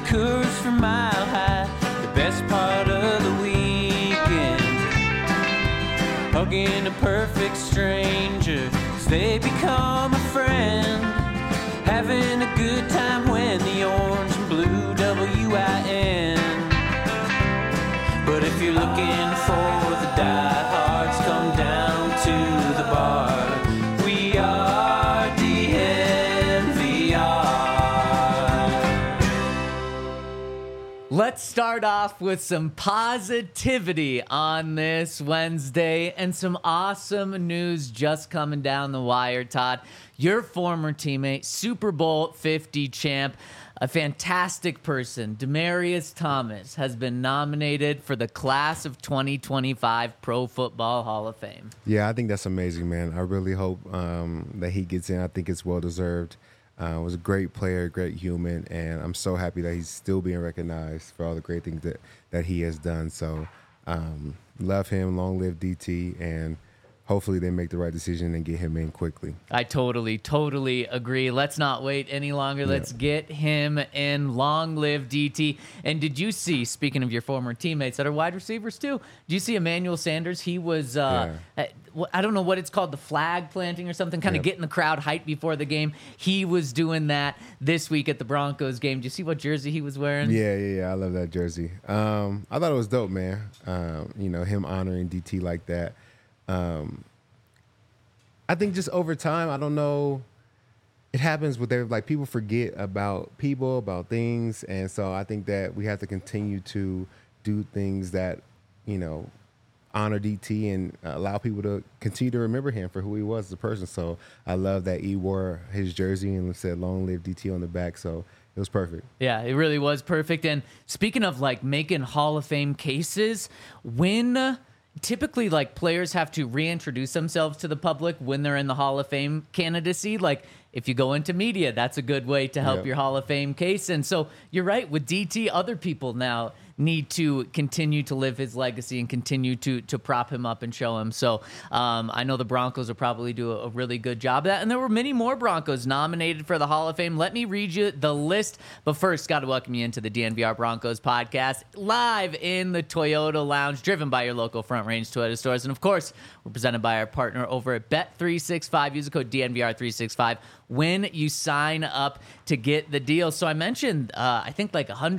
Coors from Mile High, the best part of the weekend. Hugging a perfect stranger as they become a friend. Having a good time when the orange and blue WIN. But if you're looking for the diehards, come down to the bar. We are DNVR. Let's start off with some positivity on this Wednesday and some awesome news just coming down the wire, Todd. Your former teammate, Super Bowl 50 champ, a fantastic person, Demaryius Thomas, has been nominated for the class of 2025 Pro Football Hall of Fame. Yeah, I think that's amazing, man. I really hope that he gets in. I think it's well-deserved. Was a great player, great human, and I'm so happy that he's still being recognized for all the great things that he has done. So love him, long live DT, and hopefully they make the right decision and get him in quickly. I totally agree. Let's not wait any longer. Let's get him in. Long live DT. And did you see, speaking of your former teammates that are wide receivers too, did you see Emmanuel Sanders? He was, I don't know what it's called, the flag planting or something, kind of getting the crowd hyped before the game. He was doing that this week at the Broncos game. Did you see what jersey he was wearing? Yeah. I love that jersey. I thought it was dope, man. Him honoring DT like that. I think just over time, I don't know, it happens with people forget about people, about things, and so I think that we have to continue to do things that, honor DT and allow people to continue to remember him for who he was as a person. So I love that he wore his jersey and said "Long live DT" on the back. So it was perfect. Yeah, it really was perfect. And speaking of making Hall of Fame cases, when typically players have to reintroduce themselves to the public when they're in the Hall of Fame candidacy, if you go into media, that's a good way to help your Hall of Fame case. And so you're right, with DT, other people now need to continue to live his legacy and continue to prop him up and show him. So I know the Broncos will probably do a really good job of that. And there were many more Broncos nominated for the Hall of Fame. Let me read you the list. But first, got to welcome you into the DNVR Broncos podcast, live in the Toyota Lounge, driven by your local Front Range Toyota stores. And of course, we're presented by our partner over at Bet365. Use the code DNVR365 when you sign up to get the deal. So I mentioned, I think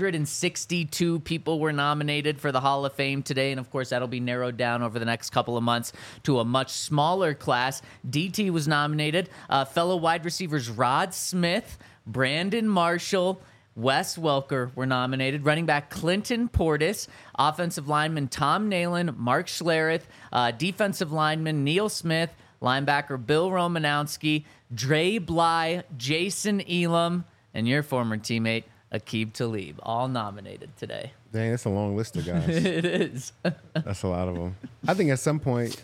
162 people were nominated for the Hall of Fame today. And of course, that'll be narrowed down over the next couple of months to a much smaller class. DT was nominated. Fellow wide receivers Rod Smith, Brandon Marshall, Wes Welker were nominated. Running back Clinton Portis, offensive lineman Tom Nalen, Mark Schlereth, defensive lineman Neil Smith, linebacker Bill Romanowski, Dre Bly, Jason Elam, and your former teammate Aqib Talib, all nominated today. Dang, that's a long list of guys. It is. That's a lot of them. I think at some point,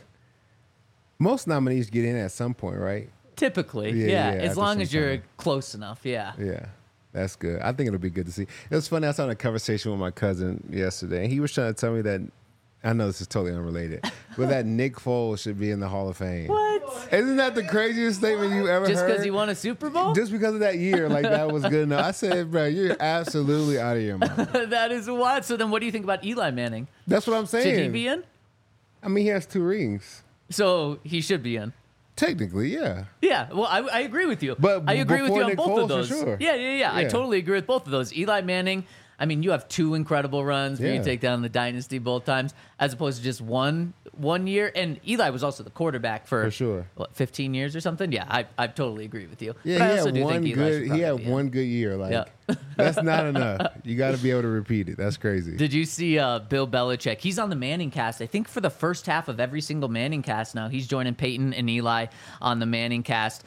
most nominees get in at some point, right? Typically, Yeah, as at long the as same you're time. close enough, yeah. Yeah, that's good. I think it'll be good to see. It was funny. I was having a conversation with my cousin yesterday, and he was trying to tell me that, I know this is totally unrelated, but that Nick Foles should be in the Hall of Fame. What? Isn't that the craziest statement you ever Just heard? because he won a Super Bowl? Just because of that year, that was good enough. I said, bro, you're absolutely out of your mind. That is what. So then what do you think about Eli Manning? That's what I'm saying. Should he be in? I mean, he has 2 rings. So he should be in. Technically, yeah. Yeah, well, I agree with you. But I agree with before you on Nick both Foles, of for those. sure. Yeah. I Yeah. totally agree with both of those. Eli Manning, I mean, you have 2 incredible runs where you Yeah. take down the dynasty both times, as opposed to just one year. And Eli was also the quarterback for sure. 15 years or something. Yeah, I totally agree with you. Yeah, But I he also had do one think Eli good. should He probably had be in. one good year. Yeah. That's not enough. You got to be able to repeat it. That's crazy. Did you see Bill Belichick? He's on the Manning cast. I think for the first half of every single Manning cast now. He's joining Peyton and Eli on the Manning cast.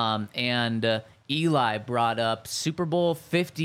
And Eli brought up Super Bowl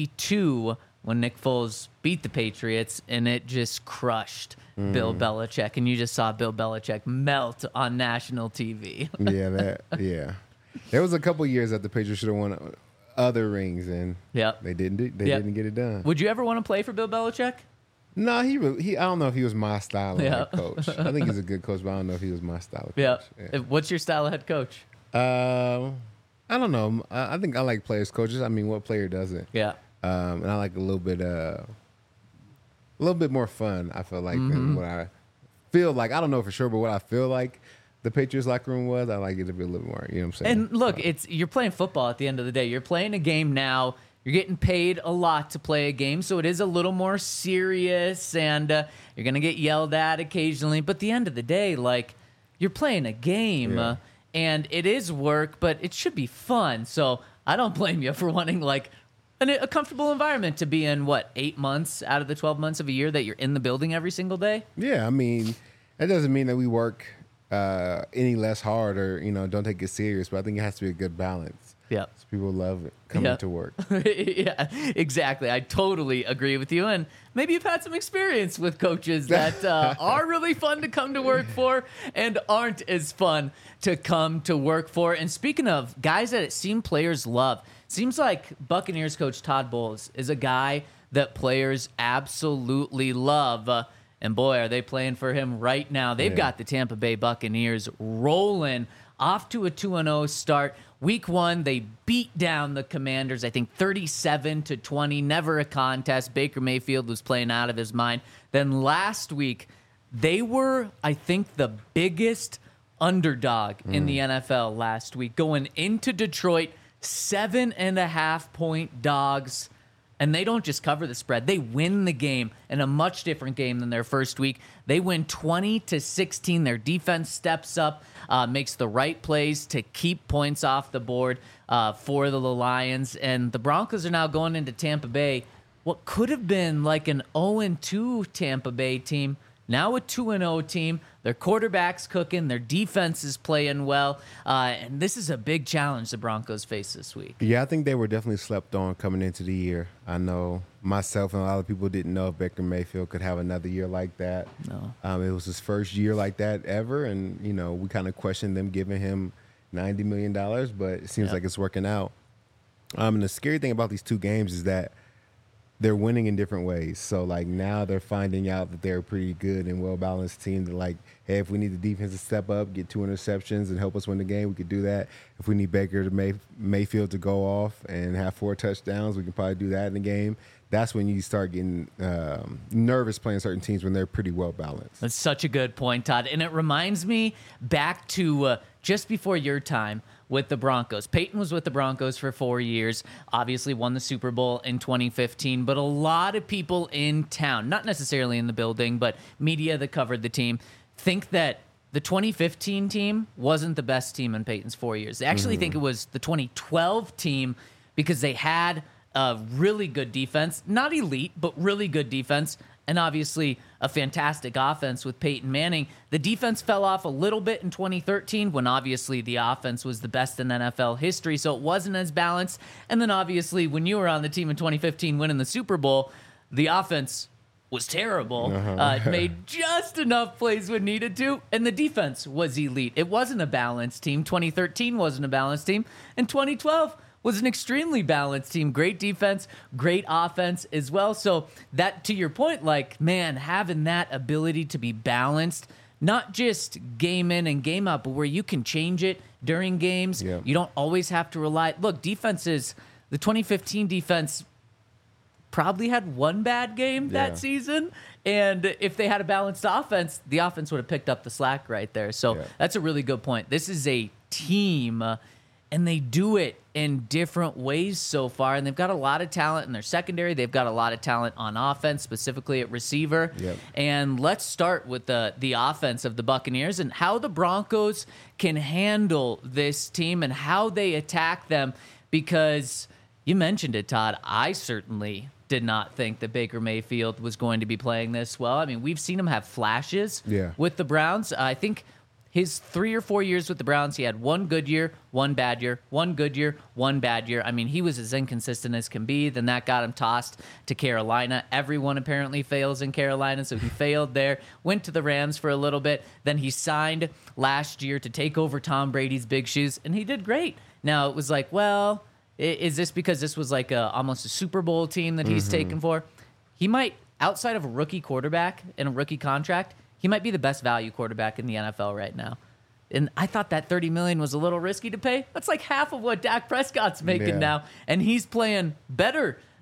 52 when Nick Foles beat the Patriots, and it just crushed Bill Belichick. And you just saw Bill Belichick melt on national TV. Yeah. There was a couple years that the Patriots should have won other rings, and Yep. they didn't. They Yep. didn't get it done. Would you ever want to play for Bill Belichick? No, he. I don't know if he was my style of Yeah. head coach. I think he's a good coach, but I don't know if he was my style of Yeah. coach. What's your style of head coach? I don't know. I think I like players coaches. I mean, what player doesn't? Yeah. And I like a little bit more fun, I feel like, than what I feel like. I don't know for sure, but what I feel like the Patriots locker room was, I like it to be a little more, you know what I'm saying? And look, you're playing football at the end of the day. You're playing a game now. You're getting paid a lot to play a game, so it is a little more serious, and you're going to get yelled at occasionally. But at the end of the day, like, you're playing a game, and it is work, but it should be fun. So I don't blame you for wanting, like, a comfortable environment to be in, 8 months out of the 12 months of a year that you're in the building every single day? Yeah, I mean, that doesn't mean that we work any less hard or, don't take it serious, but I think it has to be a good balance. Yeah. So people love it coming to work. Yeah, exactly. I totally agree with you. And maybe you've had some experience with coaches that are really fun to come to work for and aren't as fun to come to work for. And speaking of guys that it seems players love, seems like Buccaneers coach Todd Bowles is a guy that players absolutely love. And boy, are they playing for him right now. They've got the Tampa Bay Buccaneers rolling off to a 2-0 start. Week 1, they beat down the Commanders, I think 37-20, never a contest. Baker Mayfield was playing out of his mind. Then last week, they were, I think, the biggest underdog in the NFL last week, going into Detroit, 7.5-point dogs. And they don't just cover the spread. They win the game in a much different game than their first week. They win 20-16. Their defense steps up, makes the right plays to keep points off the board for the Lions. And the Broncos are now going into Tampa Bay. What could have been like an 0-2 Tampa Bay team, now a 2-0 team. Their quarterback's cooking. Their defense is playing well. And this is a big challenge the Broncos face this week. Yeah, I think they were definitely slept on coming into the year. I know myself and a lot of people didn't know if Baker Mayfield could have another year like that. No. It was his first year like that ever. And, we kind of questioned them giving him $90 million, but it seems like it's working out. And the scary thing about these two games is that they're winning in different ways. So, now they're finding out that they're a pretty good and well-balanced team that, hey, if we need the defense to step up, get 2 interceptions and help us win the game, we could do that. If we need Baker to Mayfield to go off and have 4 touchdowns, we can probably do that in the game. That's when you start getting nervous playing certain teams when they're pretty well-balanced. That's such a good point, Todd. And it reminds me back to just before your time with the Broncos. Peyton was with the Broncos for 4 years, obviously won the Super Bowl in 2015, but a lot of people in town, not necessarily in the building, but media that covered the team, think that the 2015 team wasn't the best team in Peyton's 4 years. They actually think it was the 2012 team because they had a really good defense, not elite, but really good defense, and obviously a fantastic offense with Peyton Manning. The defense fell off a little bit in 2013 when obviously the offense was the best in NFL history, so it wasn't as balanced. And then obviously when you were on the team in 2015 winning the Super Bowl, the offense was terrible. It made just enough plays when needed to, and the defense was elite. It wasn't a balanced team. 2013 wasn't a balanced team, and 2012 was an extremely balanced team. Great defense, great offense as well. So that, to your point, having that ability to be balanced, not just game in and game out, but where you can change it during games. Yeah. You don't always have to rely. Look, defenses, the 2015 defense probably had one bad game that season. And if they had a balanced offense, the offense would have picked up the slack right there. So that's a really good point. This is a team, and they do it in different ways so far. And they've got a lot of talent in their secondary. They've got a lot of talent on offense, specifically at receiver. Yep. And let's start with the offense of the Buccaneers and how the Broncos can handle this team and how they attack them. Because you mentioned it, Todd. I certainly did not think that Baker Mayfield was going to be playing this well. I mean, we've seen him have flashes with the Browns. I think his 3 or 4 years with the Browns, he had one good year, one bad year, one good year, one bad year. I mean, he was as inconsistent as can be. Then that got him tossed to Carolina. Everyone apparently fails in Carolina, so he failed there. Went to the Rams for a little bit. Then he signed last year to take over Tom Brady's big shoes, and he did great. Now, it was like, well, is this because this was like almost a Super Bowl team that he's taken for? He might, outside of a rookie quarterback and a rookie contract, he might be the best value quarterback in the NFL right now. And I thought that $30 million was a little risky to pay. That's like half of what Dak Prescott's making now. And he's playing better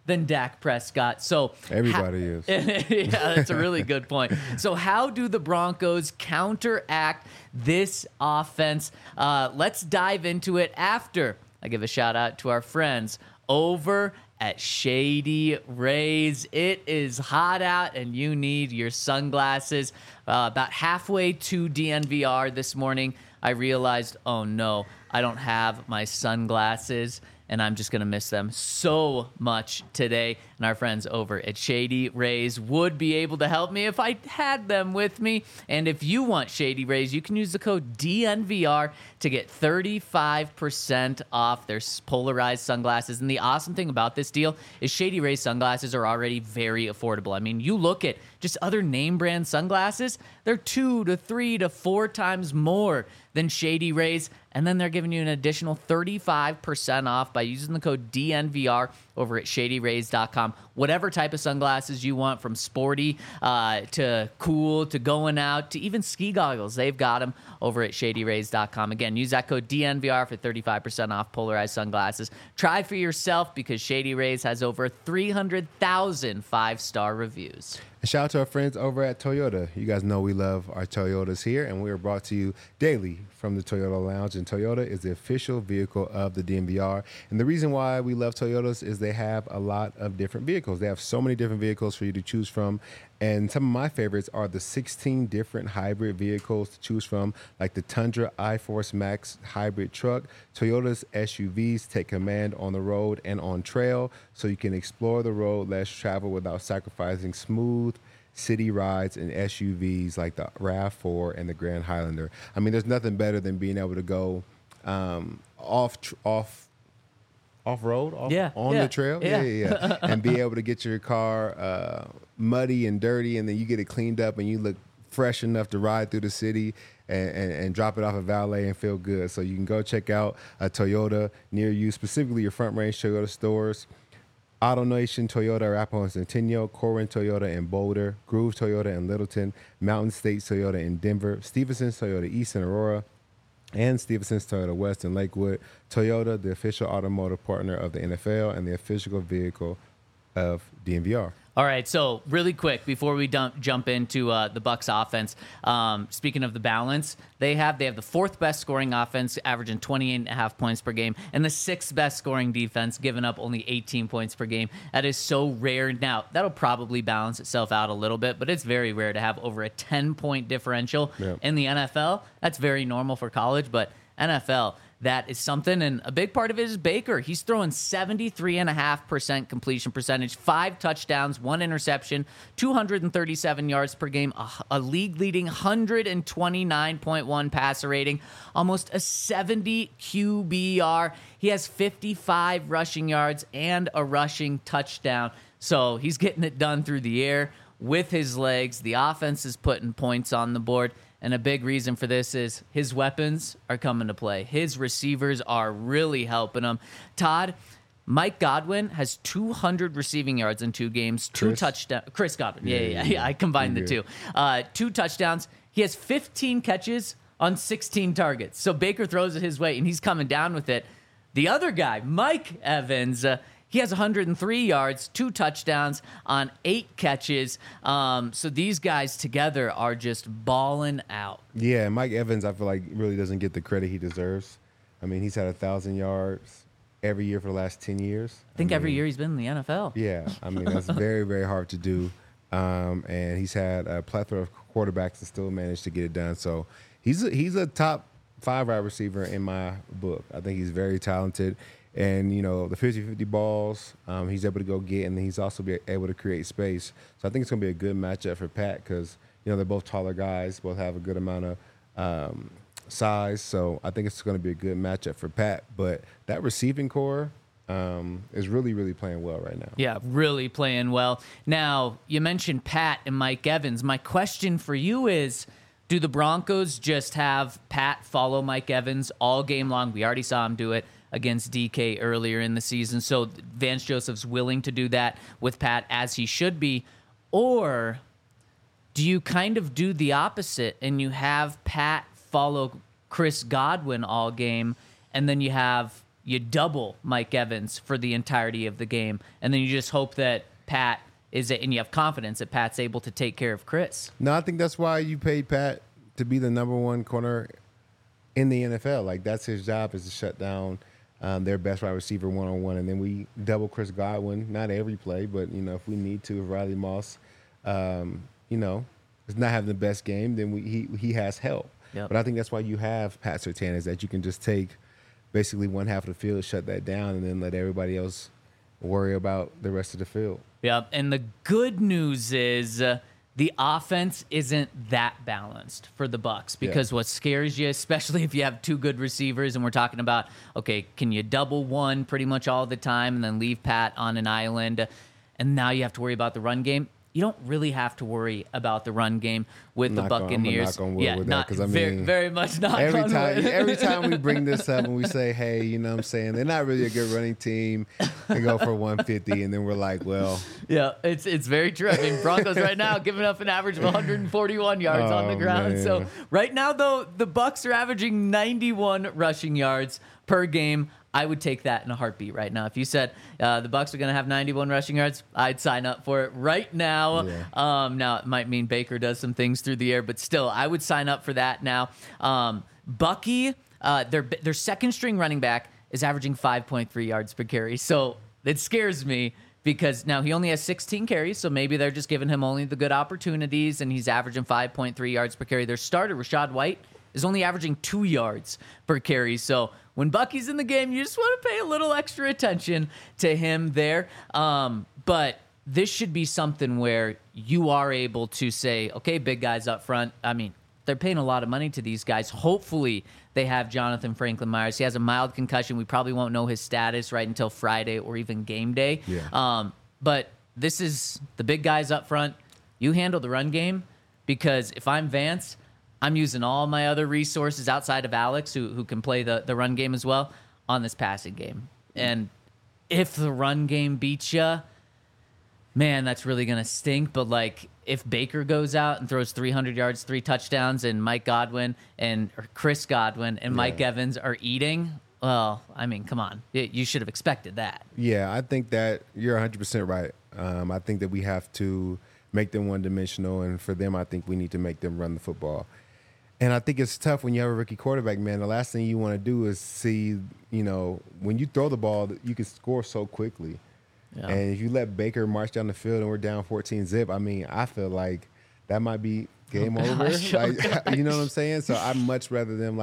than Dak Prescott. So Everybody is. Yeah, that's a really good point. So how do the Broncos counteract this offense? Let's dive into it after I give a shout out to our friends over at Shady Rays. It is hot out and you need your sunglasses. About halfway to DNVR this morning, I realized, oh no, I don't have my sunglasses, and I'm just going to miss them so much today. And our friends over at Shady Rays would be able to help me if I had them with me. And if you want Shady Rays, you can use the code DNVR to get 35% off their polarized sunglasses. And the awesome thing about this deal is Shady Rays sunglasses are already very affordable. I mean, you look at just other name brand sunglasses, they're 2 to 3 to 4 times more than Shady Rays. And then they're giving you an additional 35% off by using the code DNVR over at ShadyRays.com. Whatever type of sunglasses you want, from sporty to cool to going out to even ski goggles, they've got them over at ShadyRays.com. Again, use that code DNVR for 35% off polarized sunglasses. Try for yourself because Shady Rays has over 300,000 5-star reviews. And shout out to our friends over at Toyota. You guys know we love our Toyotas here, and we are brought to you daily from the Toyota Lounge. And Toyota is the official vehicle of the DNVR. And the reason why we love Toyotas is they have a lot of different vehicles. They have so many different vehicles for you to choose from. And some of my favorites are the 16 different hybrid vehicles to choose from, like the Tundra iForce Max hybrid truck. Toyota's SUVs take command on the road and on trail, so you can explore the road less travel without sacrificing smooth city rides and SUVs like the RAV4 and the Grand Highlander. I mean, there's nothing better than being able to go off-road, on the trail, and be able to get your car muddy and dirty, and then you get it cleaned up and you look fresh enough to ride through the city and drop it off at valet and feel good. So you can go check out a Toyota near you, specifically your Front Range Toyota stores. AutoNation Toyota Arapahoe and Centennial, Corin Toyota in Boulder, Groove Toyota in Littleton, Mountain State Toyota in Denver, Stevenson's Toyota East in Aurora, and Stevenson's Toyota West in Lakewood. Toyota, the official automotive partner of the NFL and the official vehicle of DNVR. All right, so really quick before we jump into the Bucs offense, speaking of the balance, they have the fourth best scoring offense, averaging 28.5 points per game, and the sixth best scoring defense, giving up only 18 points per game. That is so rare. Now, that'll probably balance itself out a little bit, but it's very rare to have over a 10-point differential in the NFL. That's very normal for college, but NFL, that is something, and a big part of it is Baker. He's throwing 73.5% completion percentage, 5 touchdowns, 1 interception, 237 yards per game, a league-leading 129.1 passer rating, almost a 70 QBR. He has 55 rushing yards and a rushing touchdown. So he's getting it done through the air with his legs. The offense is putting points on the board. And a big reason for this is his weapons are coming to play. His receivers are really helping him. Todd, Mike Godwin has 200 receiving yards in 2 games, 2 touchdowns. Chris Godwin, yeah. I combined the two. 2 touchdowns. He has 15 catches on 16 targets. So Baker throws it his way, and he's coming down with it. The other guy, Mike Evans, he has 103 yards, 2 touchdowns on 8 catches. So these guys together are just balling out. Yeah, Mike Evans, I feel like, really doesn't get the credit he deserves. I mean, he's had 1,000 yards every year for the last 10 years. I think every year he's been in the NFL. Yeah, I mean, that's very, very hard to do. And he's had a plethora of quarterbacks and still managed to get it done. So he's a top 5 wide receiver in my book. I think he's very talented. And, you know, the 50-50 balls, he's able to go get, and then he's also be able to create space. So I think it's going to be a good matchup for Pat because, you know, they're both taller guys, both have a good amount of size. So I think it's going to be a good matchup for Pat. But that receiving core is really, really playing well right now. Yeah, really playing well. Now, you mentioned Pat and Mike Evans. My question for you is, do the Broncos just have Pat follow Mike Evans all game long? We already saw him do it against DK earlier in the season. So Vance Joseph's willing to do that with Pat, as he should be. Or do you kind of do the opposite and you have Pat follow Chris Godwin all game, and then you have you double Mike Evans for the entirety of the game, and then you just hope that Pat and you have confidence that Pat's able to take care of Chris. No, I think that's why you paid Pat to be the number one corner in the NFL. Like, that's his job, is to shut down their best wide receiver one-on-one. And then we double Chris Godwin, not every play, but, if we need to, if Riley Moss, is not having the best game, then he has help. Yep. But I think that's why you have Pat Surtain, is that you can just take basically one half of the field, shut that down, and then let everybody else worry about the rest of the field. Yeah, and the good news is the offense isn't that balanced for the Bucs, because what scares you, especially if you have two good receivers, and we're talking about, okay, can you double one pretty much all the time and then leave Pat on an island, and now you have to worry about the run game. You don't really have to worry about the run game with the Buccaneers. I'm knock on wood with that, 'cause I mean, very much not. Every time we bring this up and we say, hey, they're not really a good running team, they go for 150, and then we're like, well, yeah, it's very true. I mean, Broncos right now giving up an average of 141 yards on the ground. Man. So right now, though, the Bucs are averaging 91 rushing yards per game. I would take that in a heartbeat right now. If you said the Bucs are going to have 91 rushing yards, I'd sign up for it right now. Yeah. Now, it might mean Baker does some things through the air, but still, I would sign up for that now. Bucky, their second-string running back, is averaging 5.3 yards per carry. So it scares me, because now he only has 16 carries, so maybe they're just giving him only the good opportunities, and he's averaging 5.3 yards per carry. Their starter, Rachaad White, is only averaging 2 yards per carry. So when Bucky's in the game, you just want to pay a little extra attention to him there. But this should be something where you are able to say, okay, big guys up front. I mean, they're paying a lot of money to these guys. Hopefully they have Jonathan Franklin Myers. He has a mild concussion. We probably won't know his status right until Friday or even game day. Yeah. But this is the big guys up front. You handle the run game, because if I'm Vance, I'm using all my other resources outside of Alex, who can play the run game as well, on this passing game. And if the run game beats you, man, that's really going to stink. But, like, if Baker goes out and throws 300 yards, 3 touchdowns, and Chris Godwin and Mike Evans are eating, well, I mean, come on. You should have expected that. Yeah, I think that you're 100% right. I think that we have to make them one-dimensional, and for them, I think we need to make them run the football. And I think it's tough when you have a rookie quarterback, man. The last thing you want to do is see, when you throw the ball, you can score so quickly. Yeah. And if you let Baker march down the field and we're down 14-zip, I mean, I feel like that might be game over. You know what I'm saying? So I'd much rather them,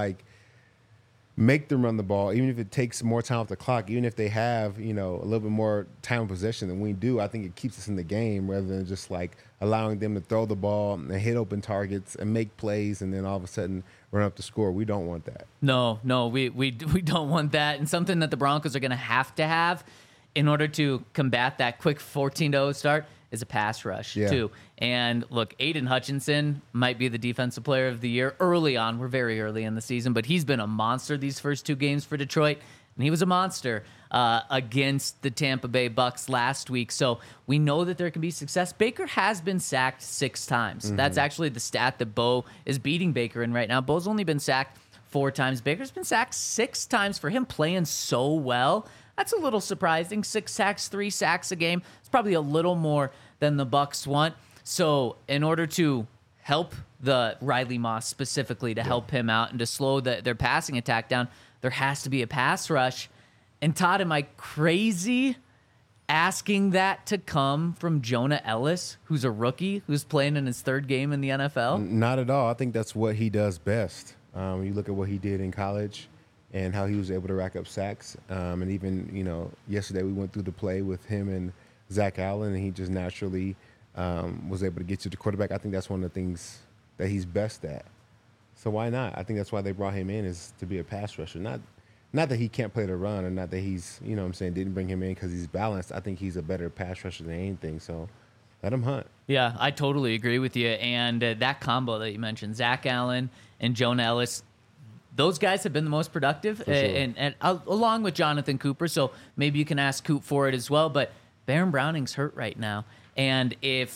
make them run the ball, even if it takes more time off the clock, even if they have, a little bit more time of possession than we do. I think it keeps us in the game rather than just allowing them to throw the ball and hit open targets and make plays and then all of a sudden run up the score. We don't want that. No, we don't want that. And something that the Broncos are going to have in order to combat that quick 14-0 start is a pass rush, too. And look, Aiden Hutchinson might be the defensive player of the year early on. We're very early in the season, but he's been a monster these first 2 games for Detroit. And he was a monster against the Tampa Bay Bucs last week. So we know that there can be success. Baker has been sacked 6 times. Mm-hmm. That's actually the stat that Bo is beating Baker in right now. Bo's only been sacked 4 times. Baker's been sacked 6 times. For him playing so well, that's a little surprising. 6 sacks, 3 sacks a game. It's probably a little more than the Bucs want. So in order to help the Riley Moss specifically, to help him out and to slow their passing attack down, there has to be a pass rush. And Todd, am I crazy asking that to come from Jonah Ellis, who's a rookie, who's playing in his 3rd game in the NFL? Not at all. I think that's what he does best. You look at what he did in college and how he was able to rack up sacks. And even, yesterday we went through the play with him and Zach Allen, and he just naturally was able to get to the quarterback. I think that's one of the things that he's best at. So why not? I think that's why they brought him in, is to be a pass rusher. Not that he can't play the run, or not that he's, didn't bring him in because he's balanced. I think he's a better pass rusher than anything. So let him hunt. Yeah, I totally agree with you. And that combo that you mentioned, Zach Allen and Jonah Ellis, those guys have been the most productive, sure. and along with Jonathan Cooper. So maybe you can ask Coop for it as well. But Baron Browning's hurt right now. And if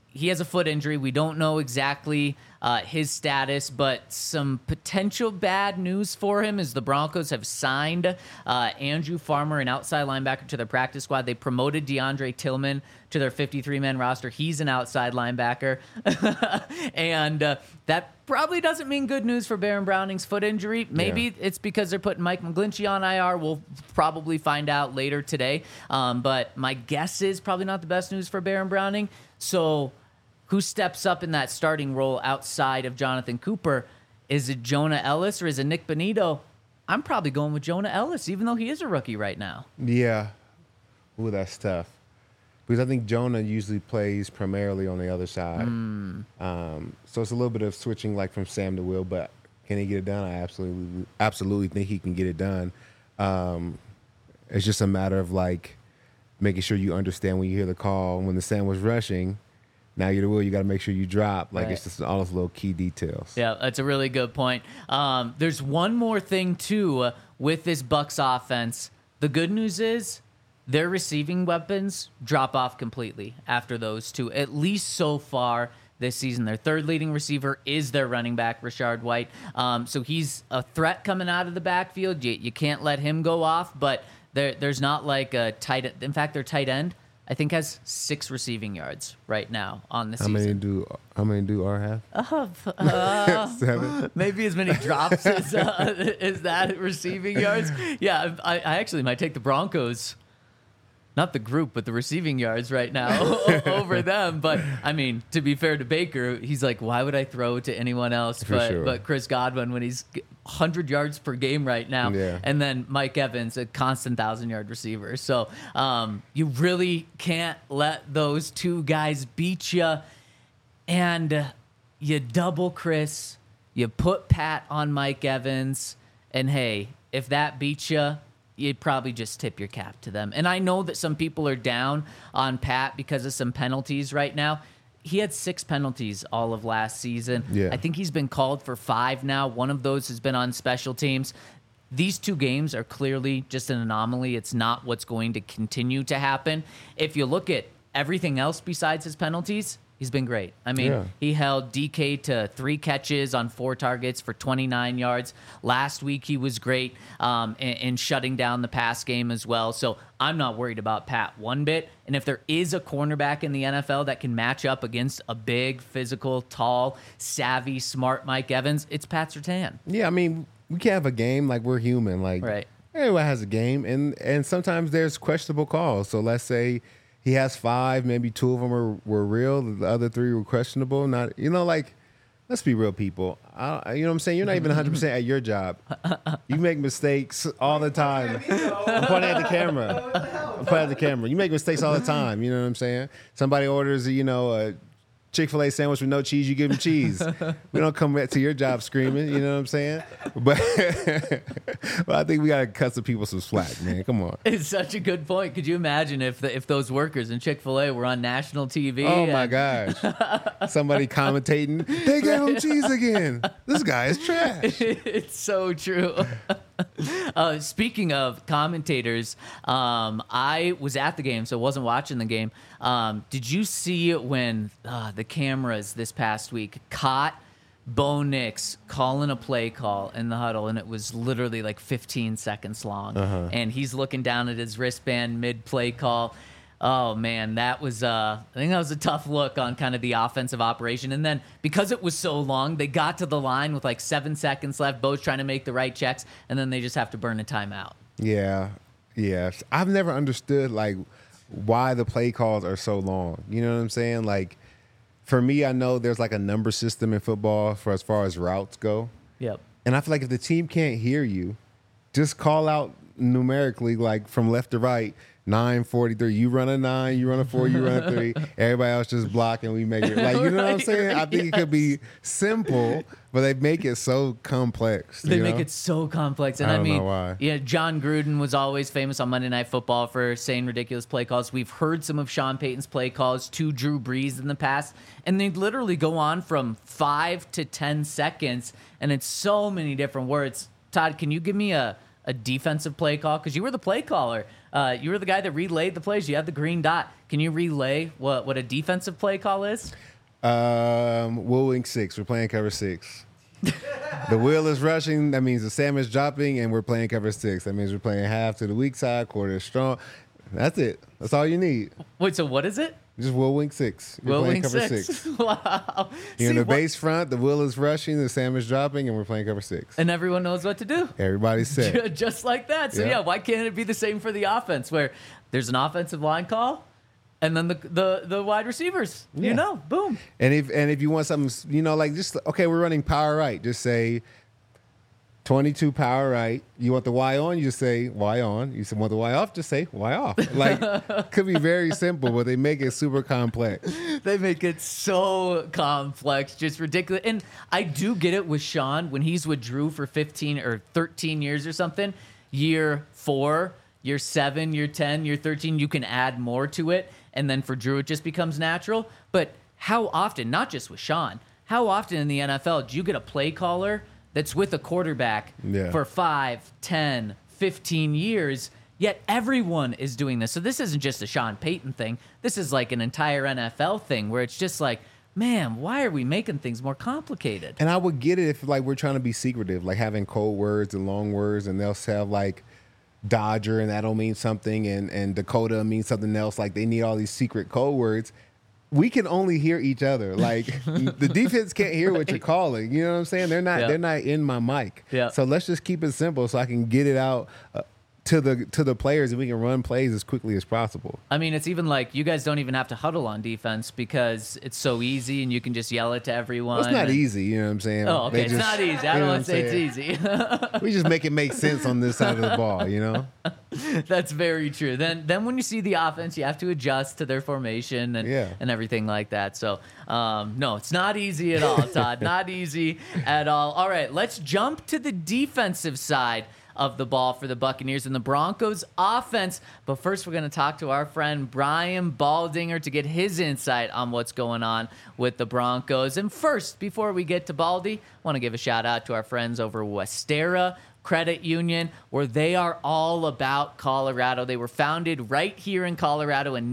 he has a foot injury. We don't know exactly his status, but some potential bad news for him is the Broncos have signed Andrew Farmer, an outside linebacker, to their practice squad. They promoted DeAndre Tillman to their 53-man roster. He's an outside linebacker. And that probably doesn't mean good news for Baron Browning's foot injury. Maybe it's because they're putting Mike McGlinchey on IR. We'll probably find out later today. But my guess is probably not the best news for Baron Browning. So who steps up in that starting role outside of Jonathan Cooper? Is it Jonah Ellis or is it Nick Bonito? I'm probably going with Jonah Ellis, even though he is a rookie right now. Yeah. Ooh, that's tough. Because I think Jonah usually plays primarily on the other side. So it's a little bit of switching like from Sam to Will, but can he get it done? I absolutely think he can get it done. It's just a matter of like making sure you understand when you hear the call. When the Sam was rushing, now you're the Will, you got to make sure you drop. Like, It's just all those little key details. Yeah, that's a really good point. There's one more thing, too, with this Bucs offense. The good news is their receiving weapons drop off completely after those two, at least so far this season. Their third leading receiver is their running back, Rashard White. So he's a threat coming out of the backfield. You can't let him go off, but there's not like a tight end. In fact, their tight end, I think, has 6 receiving yards right now on the season. How many do R have? 7. Maybe as many drops as that receiving yards. Yeah, I actually might take the Broncos. Not the group, but the receiving yards right now over them. But, I mean, to be fair to Baker, he's like, why would I throw to anyone else but Chris Godwin when he's 100 yards per game right now? Yeah. And then Mike Evans, a constant 1,000-yard receiver. So you really can't let those two guys beat you. And you double Chris, you put Pat on Mike Evans, and, hey, if that beats you, you'd probably just tip your cap to them. And I know that some people are down on Pat because of some penalties right now. He had 6 penalties all of last season. Yeah. I think he's been called for 5 now. One of those has been on special teams. These 2 games are clearly just an anomaly. It's not what's going to continue to happen. If you look at everything else besides his penalties, he's been great. I mean, He held DK to 3 catches on 4 targets for 29 yards. Last week, he was great in shutting down the pass game as well. So I'm not worried about Pat one bit. And if there is a cornerback in the NFL that can match up against a big, physical, tall, savvy, smart Mike Evans, it's Pat Surtain. Yeah, I mean, we can't have a game like we're human. Like, everyone has a game, and sometimes there's questionable calls. So let's say he has 5, maybe 2 of them were real. The other 3 were questionable. Not, like, let's be real, people. You know what I'm saying? You're not even 100% at your job. You make mistakes all the time. I'm pointing at the camera. You make mistakes all the time. You know what I'm saying? Somebody orders, a Chick-fil-A sandwich with no cheese, you give them cheese. We don't come back to your job screaming, you know what I'm saying? But I think we got to cut some people some slack, man. Come on. It's such a good point. Could you imagine if those workers in Chick-fil-A were on national TV? Oh, my gosh. Somebody commentating, they gave him cheese again. This guy is trash. It's so true. Speaking of commentators, I was at the game, so I wasn't watching the game. Did you see when the cameras this past week caught Bo Nix calling a play call in the huddle, and it was literally like 15 seconds long, and he's looking down at his wristband mid-play call. Oh, man, that was I think that was a tough look on kind of the offensive operation. And then because it was so long, they got to the line with like 7 seconds left. Bo's trying to make the right checks, and then they just have to burn a timeout. Yeah. I've never understood, like, why the play calls are so long. You know what I'm saying? Like, for me, I know there's like a number system in football for as far as routes go. Yep. And I feel like if the team can't hear you, just call out numerically, like from left to right, 9:43. You run a 9, you run a 4, you run a 3. Everybody else just block, and we make it. Like, you know what I'm saying? I think it could be simple, but they make it so complex. They make it so complex. And I mean, know why. Yeah, John Gruden was always famous on Monday Night Football for saying ridiculous play calls. We've heard some of Sean Payton's play calls to Drew Brees in the past, and they'd literally go on from 5 to 10 seconds, and it's so many different words. Todd, can you give me a a defensive play call? Because you were the play caller. You were the guy that relayed the plays. You had the green dot. Can you relay what a defensive play call is? We'll wing 6. We're playing cover 6. The wheel is rushing. That means the salmon is dropping, and we're playing cover 6. That means we're playing half to the weak side, quarter strong. That's it. That's all you need. Wait, so what is it? Just wheel wing 6. You're Will playing wing cover 6. Wow. You're in See, the base front. The wheel is rushing. The salmon is dropping, and we're playing cover 6. and everyone knows what to do. Everybody's set. Just like that. So, Yeah. yeah, why can't it be the same for the offense where there's an offensive line call and then the wide receivers, Yeah. boom. And if you want something, like just okay, we're running power right. Just say 22 power right. You want the Y on? You just say Y on. You want the Y off? Just say Y off. Like could be very simple, but they make it super complex. They make it so complex, just ridiculous. And I do get it with Sean when he's with Drew for 15 or 13 years or something. Year 4, year 7, year 10, year 13, you can add more to it. And then for Drew, it just becomes natural. But how often, not just with Sean, how often in the NFL do you get a play caller that's with a quarterback for 5, 10, 15 years, yet everyone is doing this? So this isn't just a Sean Payton thing. This is like an entire NFL thing where it's just like, man, why are we making things more complicated? And I would get it if like we're trying to be secretive, like having code words and long words, and they'll have like Dodger and that'll mean something, and Dakota means something else. Like they need all these secret code words. We can only hear each other. Like the defense can't hear what you're calling. You know what I'm saying? They're not in my mic. Yeah. So let's just keep it simple so I can get it out to the players, and we can run plays as quickly as possible. I mean, it's even like you guys don't even have to huddle on defense because it's so easy and you can just yell it to everyone. Well, it's not easy, you know what I'm saying? Oh, okay. It's not easy. I don't want to say it's easy. We just make it make sense on this side of the ball, you know? That's very true. Then when you see the offense, you have to adjust to their formation and everything like that. So, no, it's not easy at all, Todd. Not easy at all. All right, let's jump to the defensive side of the ball for the Buccaneers and the Broncos offense. But first, we're going to talk to our friend Brian Baldinger to get his insight on what's going on with the Broncos. And first, before we get to Baldy, I want to give a shout out to our friends over Westera Credit Union, where they are all about Colorado. They were founded right here in Colorado in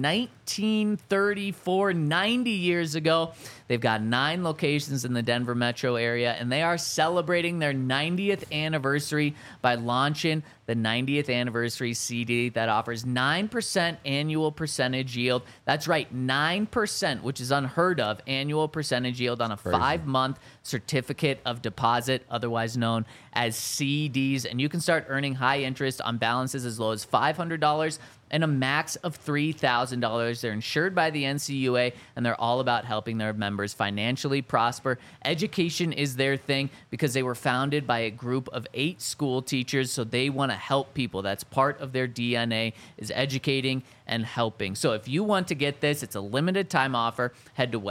1934, 90 years ago. They've got 9 locations in the Denver metro area, and they are celebrating their 90th anniversary by launching the 90th anniversary CD that offers 9% annual percentage yield. That's right, 9%, which is unheard of, annual percentage yield on a 5-month certificate of deposit, otherwise known as CDs. And you can start earning high interest on balances as low as $500 and a max of $3,000. They're insured by the NCUA, and they're all about helping their members financially prosper. Education is their thing because they were founded by a group of 8 school teachers, so they want to help people. That's part of their DNA, is educating and helping. So if you want to get this, it's a limited time offer. Head to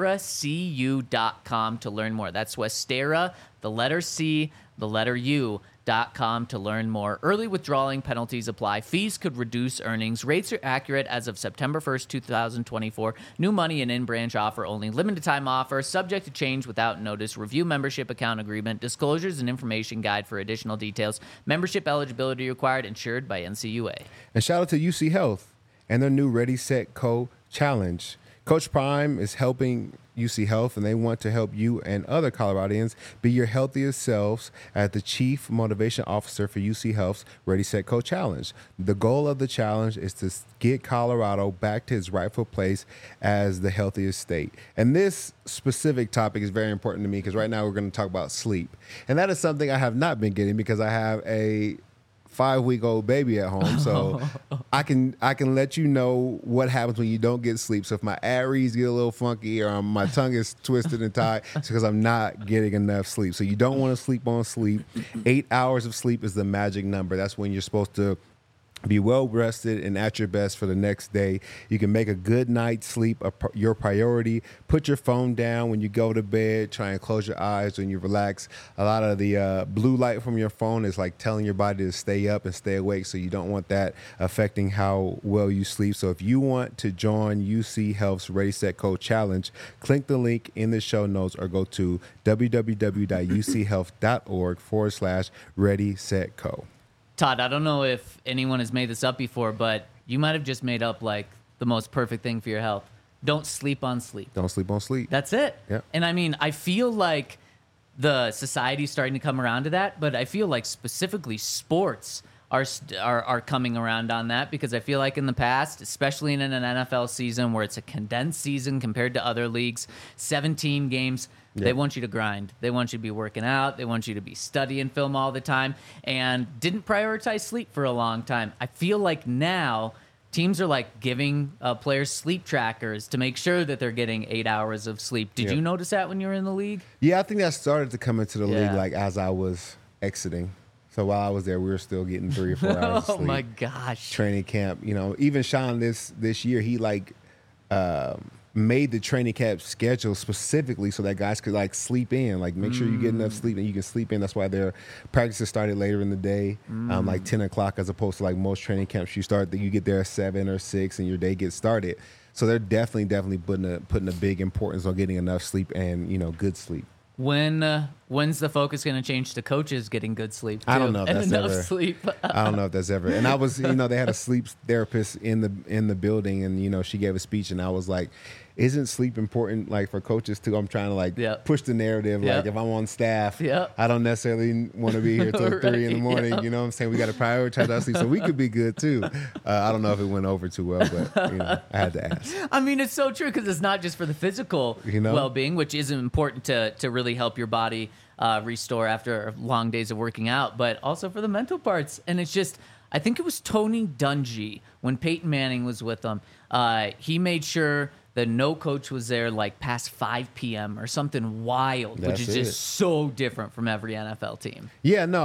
westeracu.com to learn more. That's Westera, the letter C, the letter U.com to learn more. Early withdrawing penalties apply. Fees could reduce earnings. Rates are accurate as of September 1st, 2024. New money and in-branch offer only. Limited time offer. Subject to change without notice. Review membership account agreement. Disclosures and information guide for additional details. Membership eligibility required. Insured by NCUA. And shout out to UC Health and their new Ready, Set, Co challenge. Coach Prime is helping UC Health, and they want to help you and other Coloradians be your healthiest selves as the Chief Motivation Officer for UC Health's Ready, Set, Co challenge. The goal of the challenge is to get Colorado back to its rightful place as the healthiest state. And this specific topic is very important to me because right now we're going to talk about sleep. And that is something I have not been getting because I have a 5-week-old baby at home, so I can let you know what happens when you don't get sleep. So if my ad reads get a little funky or my tongue is twisted and tied, it's because I'm not getting enough sleep. So you don't want to sleep on sleep. 8 hours of sleep is the magic number. That's when you're supposed to be well rested and at your best for the next day. You can make a good night's sleep your priority. Put your phone down when you go to bed. Try and close your eyes when you relax. A lot of the blue light from your phone is like telling your body to stay up and stay awake, so you don't want that affecting how well you sleep. So if you want to join UC Health's Ready, Set, Co challenge, click the link in the show notes or go to www.uchealth.org/Ready, Set, Co. Todd, I don't know if anyone has made this up before, but you might have just made up like the most perfect thing for your health. Don't sleep on sleep. Don't sleep on sleep. That's it. Yeah. And I mean, I feel like the society's starting to come around to that, but I feel like specifically sports are coming around on that, because I feel like in the past, especially in an NFL season where it's a condensed season compared to other leagues, 17 games, they want you to grind. They want you to be working out. They want you to be studying film all the time, and didn't prioritize sleep for a long time. I feel like now teams are like giving players sleep trackers to make sure that they're getting 8 hours of sleep. Did you notice that when you were in the league? Yeah, I think that started to come into the league Yeah. like as I was exiting. So while I was there, we were still getting 3 or 4 hours of Oh sleep. my gosh. Training camp, even Sean this year, he like made the training camp schedule specifically so that guys could like sleep in, like make sure you get enough sleep and you can sleep in. That's why their practices started later in the day, like 10 o'clock, as opposed to like most training camps you get there at 7 or 6 and your day gets started. So they're definitely putting a big importance on getting enough sleep and good sleep. When's the focus going to change to coaches getting good sleep too? I don't know if and that's enough ever- sleep. I don't know if that's ever. And I was, they had a sleep therapist in the building, and she gave a speech, and I was like, "Isn't sleep important, like for coaches too?" I'm trying to like Yep. push the narrative. Yep. Like if I'm on staff, Yep. I don't necessarily want to be here till 3 in the morning. Yep. You know what I'm saying? We got to prioritize our sleep so we could be good too. I don't know if it went over too well, but I had to ask. I mean, it's so true, because it's not just for the physical well-being, which is important to really help your body restore after long days of working out, but also for the mental parts. And it's just, I think it was Tony Dungy when Peyton Manning was with them. He made sure that no coach was there like past 5 p.m. or something wild, which That's is just it. so different from every NFL team. Yeah, no,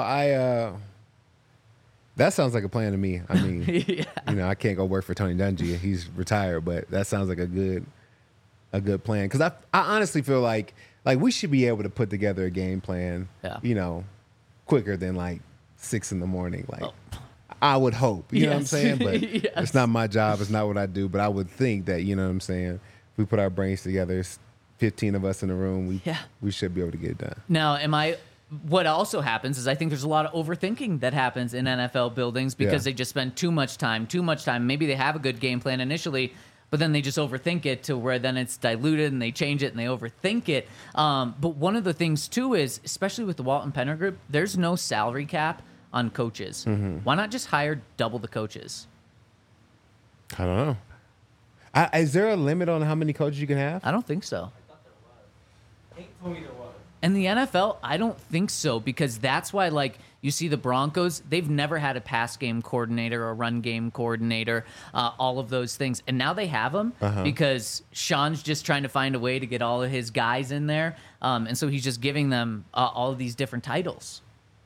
that sounds like a plan to me. I mean, I can't go work for Tony Dungy. He's retired, but that sounds like a good plan. Because I honestly feel like we should be able to put together a game plan, quicker than like 6 in the morning. Like I would hope, you know what I'm Yes. saying? But Yes. it's not my job. It's not what I do. But I would think that, you know what I'm saying? If we put our brains together, it's 15 of us in a room. We should be able to get it done. Now, what also happens is I think there's a lot of overthinking that happens in NFL buildings because they just spend too much time. Maybe they have a good game plan initially, but then they just overthink it to where then it's diluted and they change it and they overthink it. But one of the things too is, especially with the Walton Penner Group, there's no salary cap on coaches. Why not just hire double the coaches? I don't know. Is there a limit on how many coaches you can have? I don't think so. Hank told me there was. And the NFL, I don't think so, because that's why, like, you see the Broncos, they've never had a pass game coordinator or run game coordinator, all of those things. And now they have them because Sean's just trying to find a way to get all of his guys in there. And so he's just giving them all of these different titles.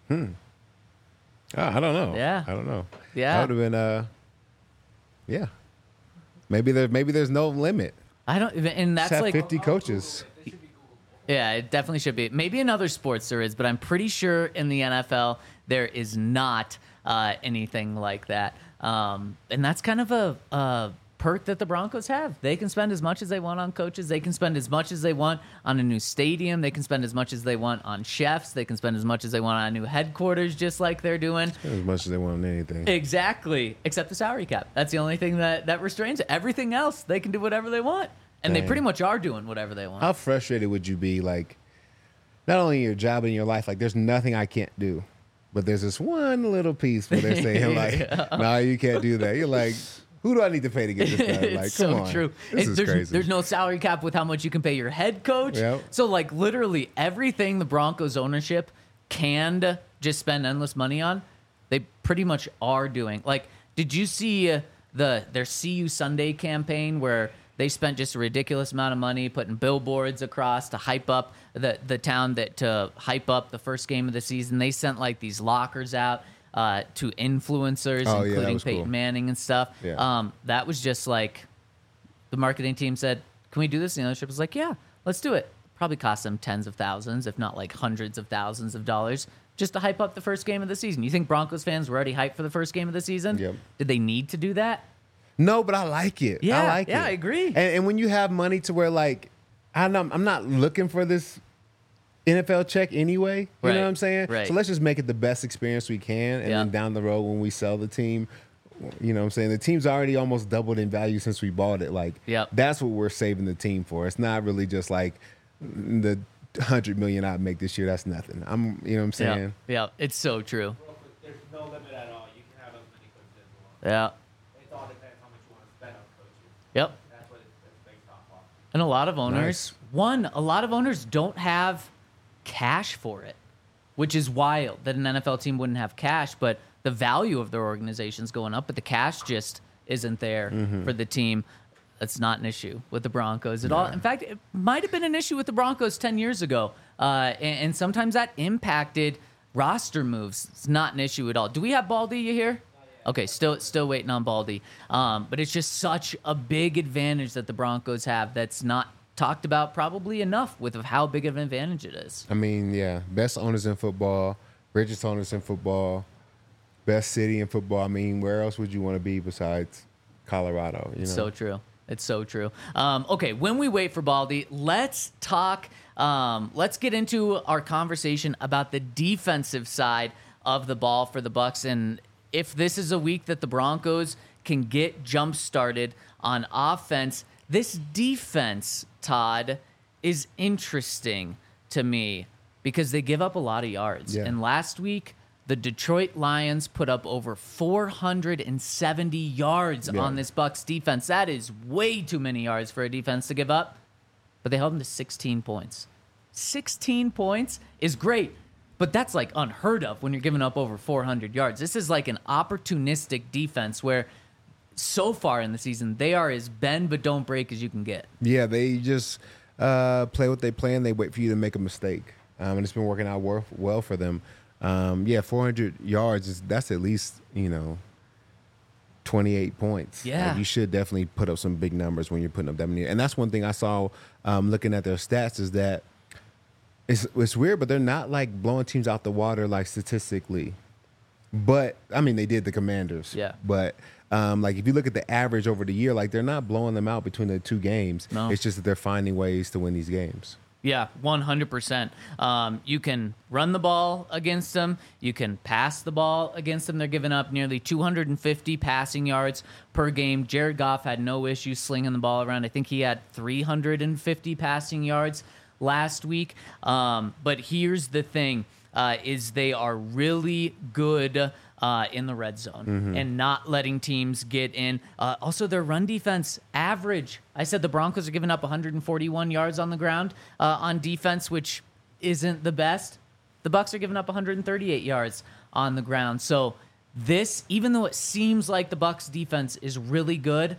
I don't know. Yeah. I don't know. Yeah. That would have been, Maybe there's no limit. I don't, and that's Just have like 50 coaches. Yeah, it definitely should be. Maybe in other sports there is, but I'm pretty sure in the NFL there is not anything like that. And that's kind of a perk that the Broncos have. They can spend as much as they want on coaches. They can spend as much as they want on a new stadium. They can spend as much as they want on chefs. They can spend as much as they want on new headquarters, just like they're doing. As much as they want on anything. Exactly, except the salary cap. That's the only thing that restrains it. Everything else, they can do whatever they want. And they Dang. pretty much are doing whatever they want. How frustrated would you be, like, not only in your job and in your life, like, there's nothing I can't do, but there's this one little piece where they're saying, like, no, you can't do that. You're like, who do I need to pay to get this done? Like, It's come so on. true. This is crazy. There's no salary cap with how much you can pay your head coach. Yep. So, like, literally everything the Broncos ownership can just spend endless money on, they pretty much are doing. Like, did you see their See You Sunday campaign where they spent just a ridiculous amount of money putting billboards across to hype up the town, to hype up the first game of the season? They sent like these lockers out to influencers, Oh, yeah, that including was Peyton cool. Manning and stuff. Yeah. That was just like the marketing team said, "Can we do this?" And the ownership was like, "Yeah, let's do it." Probably cost them tens of thousands, if not like hundreds of thousands of dollars, just to hype up the first game of the season. You think Broncos fans were already hyped for the first game of the season? Yep. Did they need to do that? No, but I like it. Yeah, I like it. yeah, I agree. And when you have money to where, like, I'm not looking for this NFL check anyway. You Right, know what I'm saying? right. So let's just make it the best experience we can. And Yeah. then down the road when we sell the team, you know what I'm saying? The team's already almost doubled in value since we bought it. Like, Yep. that's what we're saving the team for. It's not really just like the $100 million I make this year. That's nothing. You know what I'm saying? Yeah, it's so true. There's no limit at all. You can have as many coaches as you want. Yeah. It all depends how much you want to spend on coaches. Yep. That's what it's based off of. And a lot of owners, Nice. a lot of owners don't have cash for it, which is wild that an NFL team wouldn't have cash, but the value of their organization's going up, but the cash just isn't there for the team. That's not an issue with the Broncos at all. In fact, it might have been an issue with the Broncos 10 years ago. And sometimes that impacted roster moves. It's not an issue at all. Do we have Baldy, you hear? Okay, still waiting on Baldy. But it's just such a big advantage that the Broncos have that's not talked about probably enough with of how big of an advantage it is. I mean, yeah, best owners in football, richest owners in football, best city in football. I mean, where else would you want to be besides Colorado? You know? So true. It's so true. Okay, when we wait for Baldy, let's talk. Let's get into our conversation about the defensive side of the ball for the Bucs, and if this is a week that the Broncos can get jump started on offense. This defense, Todd, is interesting to me because they give up a lot of yards. Yeah. And last week, the Detroit Lions put up over 470 yards on this Bucs defense. That is way too many yards for a defense to give up. But they held them to 16 points. 16 points is great, but that's like unheard of when you're giving up over 400 yards. This is like an opportunistic defense where so far in the season, they are as bend but don't break as you can get. Yeah, they just play what they play and they wait for you to make a mistake. And it's been working out well for them. 400 yards, that's at least, 28 points. Yeah. Like, you should definitely put up some big numbers when you're putting up that many. And that's one thing I saw looking at their stats is that it's weird, but they're not like blowing teams out the water like statistically. But, I mean, they did the Commanders. Yeah. But, like, if you look at the average over the year, like, they're not blowing them out between the two games. No. It's just that they're finding ways to win these games. Yeah, 100%. You can run the ball against them. You can pass the ball against them. They're giving up nearly 250 passing yards per game. Jared Goff had no issue slinging the ball around. I think he had 350 passing yards last week. But here's the thing, is they are really good in the red zone and not letting teams get in. Also, their run defense average. I said the Broncos are giving up 141 yards on the ground on defense, which isn't the best. The Bucs are giving up 138 yards on the ground. So this, even though it seems like the Bucs defense is really good,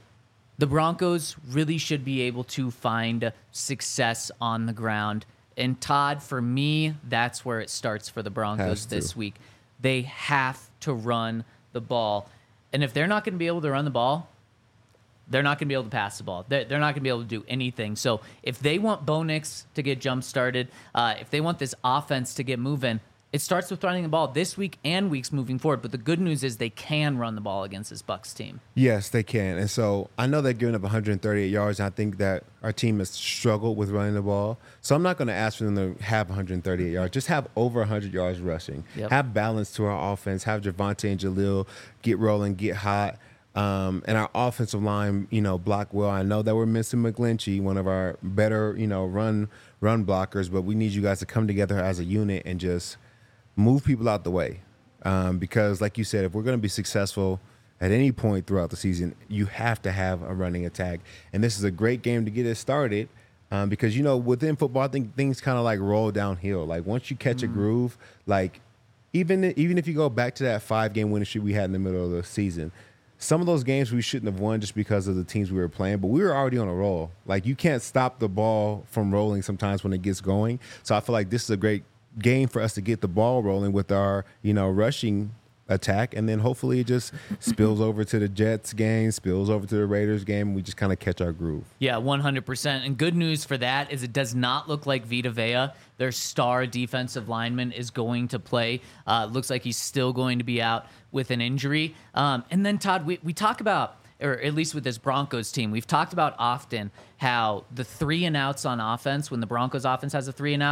the Broncos really should be able to find success on the ground. And Todd, for me, that's where it starts for the Broncos this week. They have to run the ball. And if they're not going to be able to run the ball, they're not going to be able to pass the ball. They're not going to be able to do anything. So if they want Bo Nix to get jump-started, if they want this offense to get moving, it starts with running the ball this week and weeks moving forward. But the good news is they can run the ball against this Bucs team. Yes, they can. And so I know they're giving up 138 yards. And I think that our team has struggled with running the ball. So I'm not going to ask for them to have 138 yards. Just have over 100 yards rushing. Yep. Have balance to our offense. Have Javonte and Jaleel get rolling, get hot. And our offensive line, block well. I know that we're missing McGlinchey, one of our better, run blockers. But we need you guys to come together as a unit and just move people out the way. Because like you said, if we're going to be successful at any point throughout the season, you have to have a running attack. And this is a great game to get it started because, within football, I think things kind of like roll downhill. Like once you catch a groove, like even if you go back to that 5-game winning streak we had in the middle of the season, some of those games we shouldn't have won just because of the teams we were playing, but we were already on a roll. Like you can't stop the ball from rolling sometimes when it gets going. So I feel like this is a great game for us to get the ball rolling with our, rushing attack, and then hopefully it just spills over to the Jets game, spills over to the Raiders game, and we just kind of catch our groove. Yeah, 100%. And good news for that is it does not look like Vita Vea, their star defensive lineman, is going to play. Looks like he's still going to be out with an injury. And then, Todd, we talk about, or at least with this Broncos team, we've talked about often how the 3-and-outs on offense, when the Broncos offense has a 3-and-out,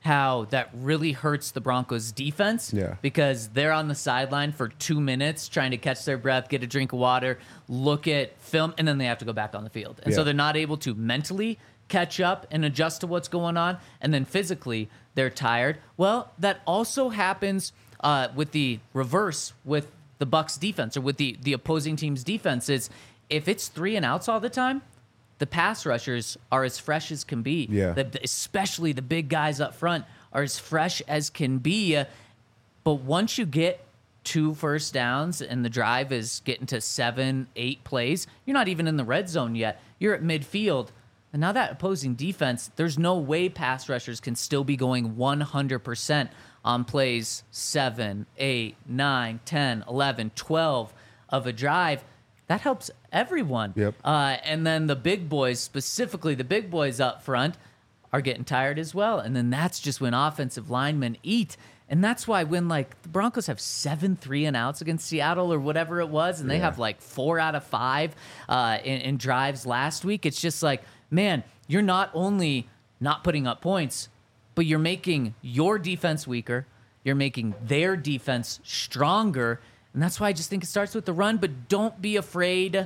how that really hurts the Broncos defense. Yeah. Because they're on the sideline for 2 minutes trying to catch their breath, get a drink of water, look at film, and then they have to go back on the field. And so Yeah. they're not able to mentally catch up and adjust to what's going on. And then physically, they're tired. Well, that also happens with the reverse with the Bucs defense, or with the opposing team's defense. Is if it's 3 and outs all the time, the pass rushers are as fresh as can be. Yeah. Especially the big guys up front are as fresh as can be. But once you get 2 first downs and the drive is getting to 7, 8 plays, you're not even in the red zone yet. You're at midfield. And now that opposing defense, there's no way pass rushers can still be going 100% on plays 7, 8, 9, 10, 11, 12 of a drive. That helps everyone. Yep. And then the big boys, specifically the big boys up front, are getting tired as well. And then that's just when offensive linemen eat. And that's why when, like, the Broncos have 7 3-and-outs against Seattle or whatever it was, and they have, like, 4 out of 5 in drives last week, it's just like, man, you're not only not putting up points, but you're making your defense weaker. You're making their defense stronger. And that's why I just think it starts with the run. But don't be afraid.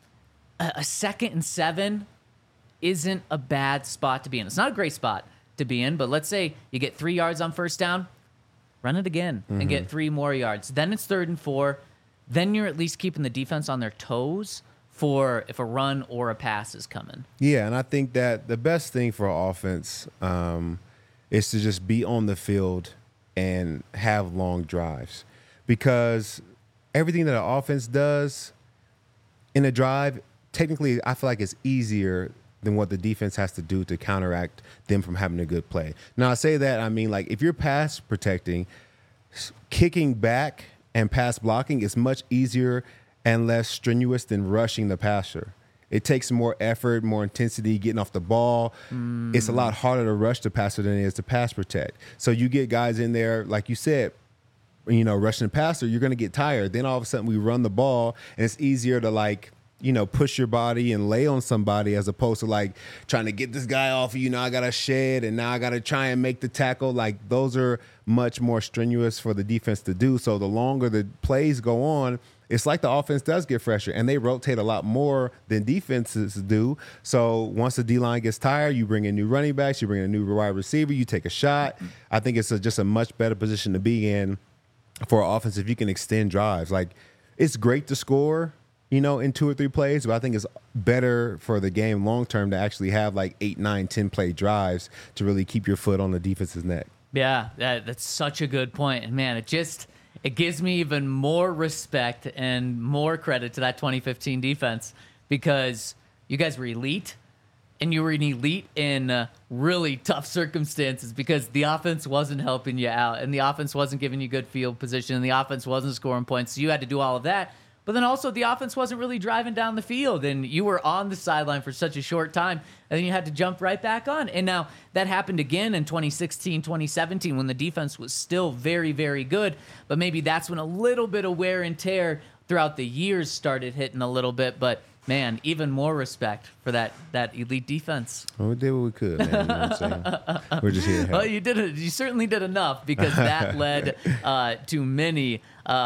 A 2nd and 7 isn't a bad spot to be in. It's not a great spot to be in, but let's say you get 3 yards on first down, run it again and get 3 more yards. Then it's 3rd and 4. Then you're at least keeping the defense on their toes for if a run or a pass is coming. Yeah, and I think that the best thing for an offense is to just be on the field and have long drives, because everything that an offense does in a drive, technically, I feel like it's easier than what the defense has to do to counteract them from having a good play. Now, I say that, I mean, like, if you're pass protecting, kicking back and pass blocking is much easier and less strenuous than rushing the passer. It takes more effort, more intensity, getting off the ball. It's a lot harder to rush the passer than it is to pass protect. So you get guys in there, like you said, you know, rushing the passer, you're going to get tired. Then all of a sudden we run the ball, and it's easier to, like, you know, push your body and lay on somebody as opposed to, like, trying to get this guy off of you. Now I got to shed, and now I got to try and make the tackle. Like, those are much more strenuous for the defense to do. So the longer the plays go on, it's like the offense does get fresher, and they rotate a lot more than defenses do. So once the D-line gets tired, you bring in new running backs, you bring in a new wide receiver, you take a shot. I think it's just a much better position to be in for an offense if you can extend drives. Like, it's great to score, you know, in 2 or 3 plays, but I think it's better for the game long-term to actually have, like, 8, 9, 10 play drives to really keep your foot on the defense's neck. Yeah, that's such a good point. And, man, it gives me even more respect and more credit to that 2015 defense, because you guys were elite, and you were an elite in really tough circumstances because the offense wasn't helping you out, and the offense wasn't giving you good field position, and the offense wasn't scoring points. So you had to do all of that. But then also the offense wasn't really driving down the field, and you were on the sideline for such a short time, and then you had to jump right back on. And now that happened again in 2016, 2017 when the defense was still very, very good, but maybe that's when a little bit of wear and tear throughout the years started hitting a little bit. But, man, even more respect for that elite defense. Well, we did what we could, man. You know what I'm saying? We're just here to help. Well, you certainly did enough, because that led to many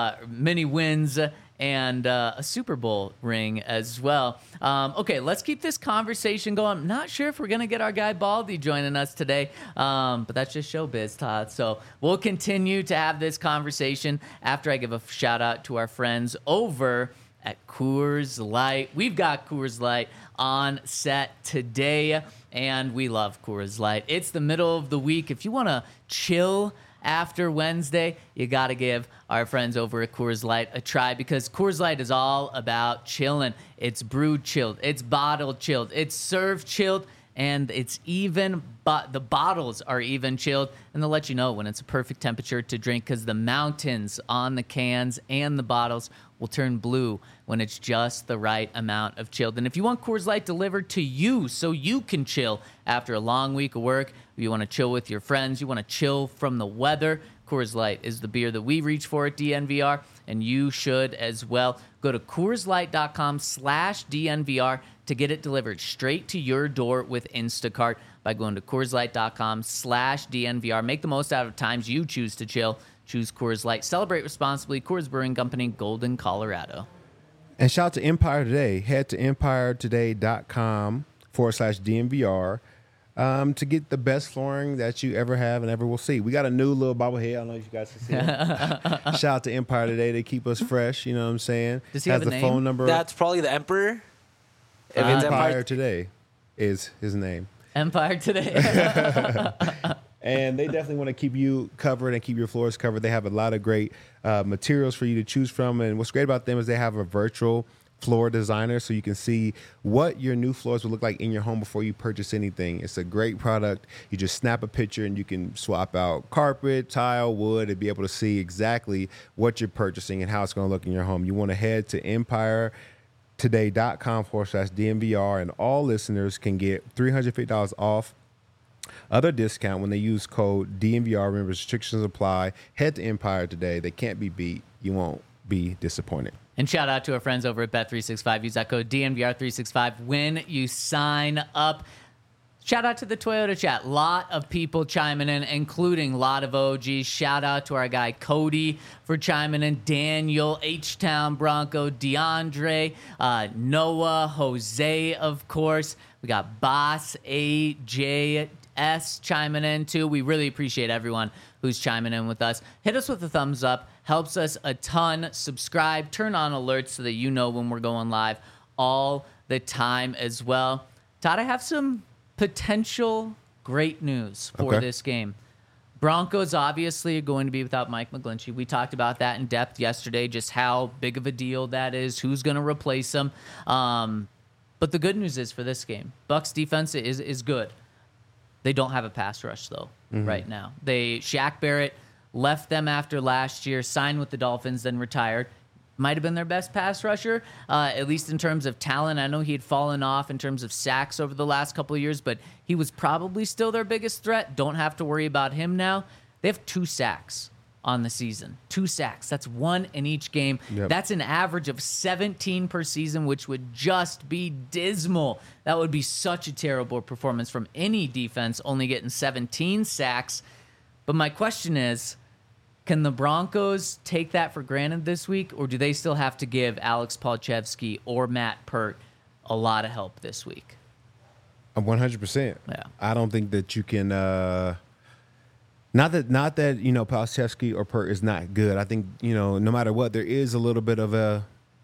wins and a Super Bowl ring as well. Okay, let's keep this conversation going. I'm not sure if we're going to get our guy Baldy joining us today, but that's just showbiz, Todd. So we'll continue to have this conversation after I give a shout out to our friends over at Coors Light. We've got Coors Light on set today, and we love Coors Light. It's the middle of the week. If you want to chill after Wednesday, you got to give our friends over at Coors Light a try, because Coors Light is all about chilling. It's brewed chilled, it's bottled chilled, it's served chilled, and it's even, but the bottles are even chilled, and they'll let you know when it's a perfect temperature to drink, because the mountains on the cans and the bottles will turn blue when it's just the right amount of chilled. And if you want Coors Light delivered to you so you can chill after a long week of work, if you want to chill with your friends, you want to chill from the weather, Coors Light is the beer that we reach for at DNVR, and you should as well. Go to CoorsLight.com/DNVR to get it delivered straight to your door with Instacart. by going to CoorsLight.com/DNVR. Make the most out of times you choose to chill. Choose Coors Light. Celebrate responsibly. Coors Brewing Company, Golden, Colorado. And shout out to Empire Today. Head to EmpireToday.com/DNVR to get the best flooring that you ever have and ever will see. We got a new little bobblehead. I don't know if you guys can see it. Shout out to Empire Today. They keep us fresh. You know what I'm saying? Does he have a the name? phone number. That's probably the Emperor. If it's Empire Today is his name. Empire Today. And they definitely want to keep you covered and keep your floors covered. They have a lot of great materials for you to choose from. And what's great about them is they have a virtual floor designer, so you can see what your new floors will look like in your home before you purchase anything. It's a great product. You just snap a picture and you can swap out carpet, tile, wood, and be able to see exactly what you're purchasing and how it's going to look in your home. You want to head to EmpireToday.com/DNVR, and all listeners can get $350 off other discount when they use code DNVR. Remember, restrictions apply. Head to Empire Today. They can't be beat. You won't be disappointed. And shout out to our friends over at Bet365. Use that code DNVR365 when you sign up. Shout out to the Toyota chat. Lot of people chiming in, including a lot of OGs. Shout out to our guy Cody for chiming in. Daniel, H-Town Bronco, DeAndre, Noah, Jose, of course. We got Boss AJ chiming in too. We really appreciate everyone who's chiming in with us. Hit us with a thumbs up. Helps us a ton. Subscribe. Turn on alerts so that you know when we're going live all the time as well. Todd, I have some potential great news for this game. Broncos obviously are going to be without Mike McGlinchey. We talked about that in depth yesterday, just how big of a deal that is, who's going to replace him. But the good news is for this game, Bucs defense is good. They don't have a pass rush, though, right now. Shaq Barrett left them after last year, signed with the Dolphins, then retired. Might have been their best pass rusher, at least in terms of talent. I know he had fallen off in terms of sacks over the last couple of years, but he was probably still their biggest threat. Don't have to worry about him now. They have 2 sacks on the season. 2 sacks. That's 1 in each game. Yep. That's an average of 17 per season, which would just be dismal. That would be such a terrible performance from any defense, only getting 17 sacks. But my question is, can the Broncos take that for granted this week, or do they still have to give Alex Palczewski or Matt Pert a lot of help this week? 100%. Yeah. I don't think that you can not that Palczewski or Pert is not good. I think, no matter what, there is a little bit of a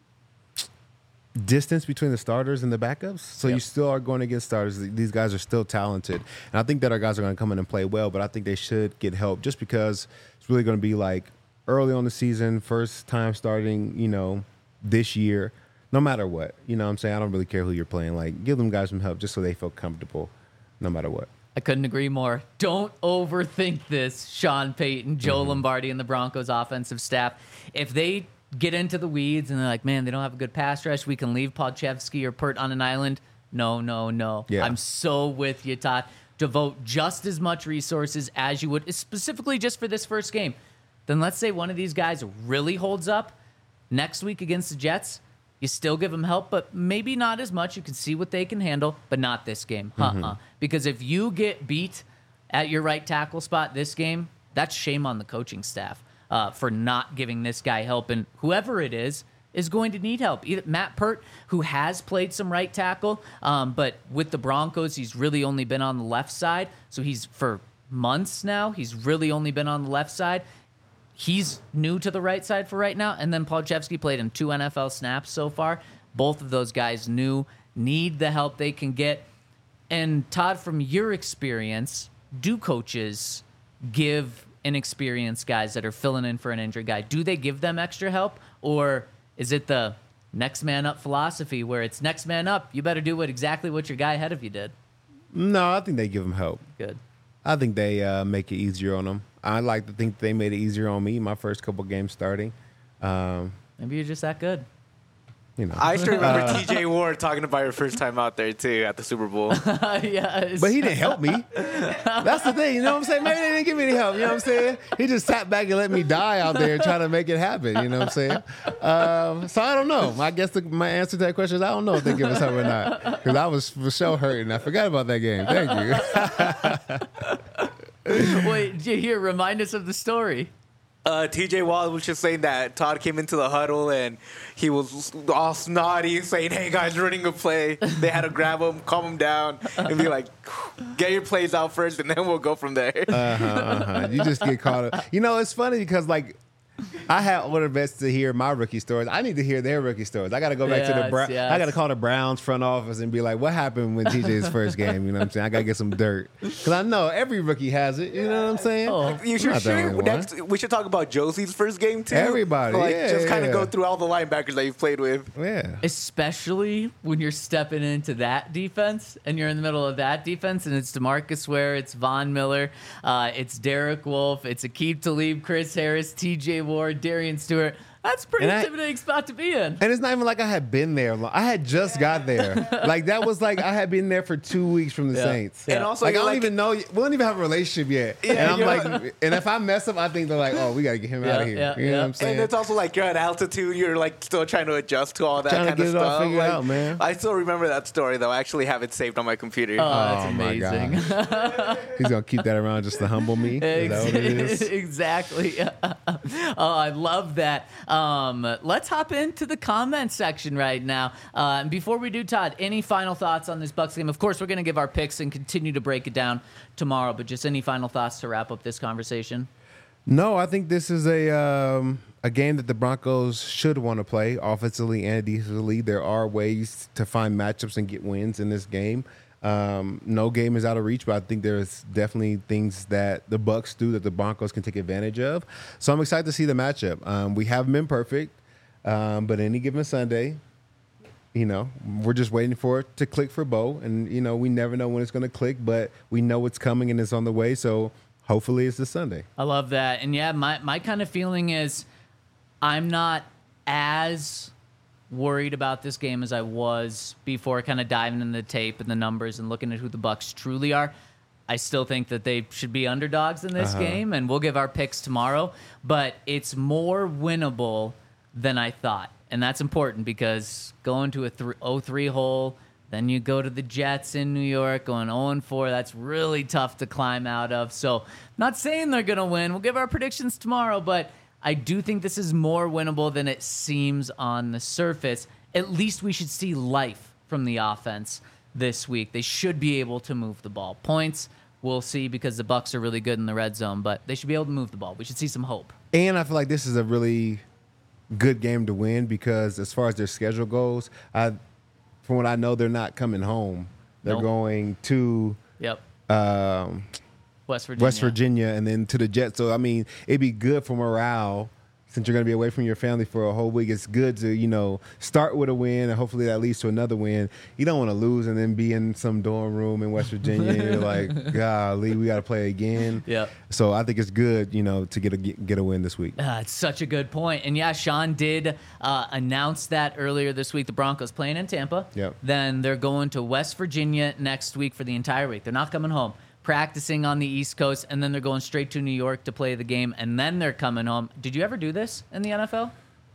distance between the starters and the backups. So you still are going against starters. These guys are still talented. And I think that our guys are going to come in and play well, but I think they should get help just because it's really going to be like early on the season, first time starting, this year, no matter what. You know what I'm saying? I don't really care who you're playing. Like, give them guys some help just so they feel comfortable no matter what. I couldn't agree more. Don't overthink this, Sean Payton, Joe Lombardi, and the Broncos offensive staff. If they get into the weeds and they're like, man, they don't have a good pass rush, we can leave Palczewski or Pert on an island. No. Yeah. I'm so with you, Todd. Devote just as much resources as you would, specifically just for this first game. Then let's say one of these guys really holds up next week against the Jets. You still give them help, but maybe not as much. You can see what they can handle, but not this game. Because if you get beat at your right tackle spot this game, that's shame on the coaching staff for not giving this guy help. And whoever it is going to need help. Either Matt Pert, who has played some right tackle, but with the Broncos, he's really only been on the left side. So for months now, he's really only been on the left side. He's new to the right side for right now. And then Palczewski played in 2 NFL snaps so far. Both of those guys need the help they can get. And Todd, from your experience, do coaches give inexperienced guys that are filling in for an injured guy, do they give them extra help? Or is it the next man up philosophy where it's next man up, you better do exactly what your guy ahead of you did? No, I think they give them help. Good. I think they make it easier on them. I like to think they made it easier on me my first couple games starting. Maybe you're just that good. I still remember T.J. Ward talking about your first time out there too at the Super Bowl. Yes. But he didn't help me. That's the thing, you know what I'm saying? Maybe they didn't give me any help, you know what I'm saying? He just sat back and let me die out there trying to make it happen, you know what I'm saying? So I don't know. I guess my answer to that question is I don't know if they give us help or not. Because I was for sure hurting. I forgot about that game. Thank you. Wait, did you hear? Remind us of the story. T.J. Watt was just saying that Todd came into the huddle and he was all snotty, saying, "Hey guys, running a play." They had to grab him, calm him down, and be like, "Get your plays out first, and then we'll go from there." You just get caught up. You know, it's funny because I had older vets to hear my rookie stories. I need to hear their rookie stories. I got to go back to the Browns. Yes. I got to call the Browns front office and be like, what happened when TJ's first game? You know what I'm saying? I got to get some dirt. Because I know every rookie has it. You know what I'm saying? Oh. You should Not the only one. next. We should talk about Josie's first game too. Everybody, just kind yeah. of go through all the linebackers that you've played with. Yeah. Especially when you're stepping into that defense and you're in the middle of that defense and it's DeMarcus Ware, it's Von Miller, it's Derek Wolfe, it's Aqib Talib, Chris Harris, TJ Ward, Darian Stewart. That's a pretty intimidating spot to be in. And it's not even like I had been there. I had just got there. Like, that was like I had been there for 2 weeks from the Saints. And also, like, I you're don't even know. We don't even have a relationship yet. Yeah, and I'm you're like, and if I mess up, I think they're like, oh, we got to get him out of here. You know what I'm saying? And it's also like you're at altitude. You're like still trying to adjust to all that Trying to kind of get it all stuff. figured Like, out, man. I still remember that story though. I actually have it saved on my computer. Oh, that's Oh, my amazing. He's going to keep that around just to humble me. Is that what it is? Exactly. Oh, I love that. Let's hop into the comment section right now. And before we do, Todd, any final thoughts on this Bucs game? Of course, we're going to give our picks and continue to break it down tomorrow, but just any final thoughts to wrap up this conversation? No, I think this is a game that the Broncos should want to play offensively and defensively. There are ways to find matchups and get wins in this game. No game is out of reach, but I think there's definitely things that the Bucs do that the Broncos can take advantage of. So I'm excited to see the matchup. We haven't been perfect, but any given Sunday, we're just waiting for it to click for Bo. And, we never know when it's going to click, but we know it's coming and it's on the way. So hopefully it's this Sunday. I love that. And yeah, my kind of feeling is I'm not as worried about this game as I was before kind of diving into the tape and the numbers and looking at who the Bucs truly are. I still think that they should be underdogs in this game, and we'll give our picks tomorrow. But it's more winnable than I thought. And that's important because going to a 0-3 hole, then you go to the Jets in New York, going 0-4. That's really tough to climb out of. So not saying they're going to win. We'll give our predictions tomorrow, but I do think this is more winnable than it seems on the surface. At least we should see life from the offense this week. They should be able to move the ball. Points, we'll see, because the Bucs are really good in the red zone, but they should be able to move the ball. We should see some hope. And I feel like this is a really good game to win because as far as their schedule goes, from what I know, they're not coming home. They're going to West Virginia and then to the Jets. So, I mean, it'd be good for morale since you're going to be away from your family for a whole week. It's good to, start with a win and hopefully that leads to another win. You don't want to lose and then be in some dorm room in West Virginia and you're like, golly, we got to play again. Yep. So I think it's good, to get a win this week. It's such a good point. And yeah, Sean did announce that earlier this week. The Broncos playing in Tampa. Yep. Then they're going to West Virginia next week for the entire week. They're not coming home. Practicing on the East Coast, and then they're going straight to New York to play the game, and then they're coming home. Did you ever do this in the NFL?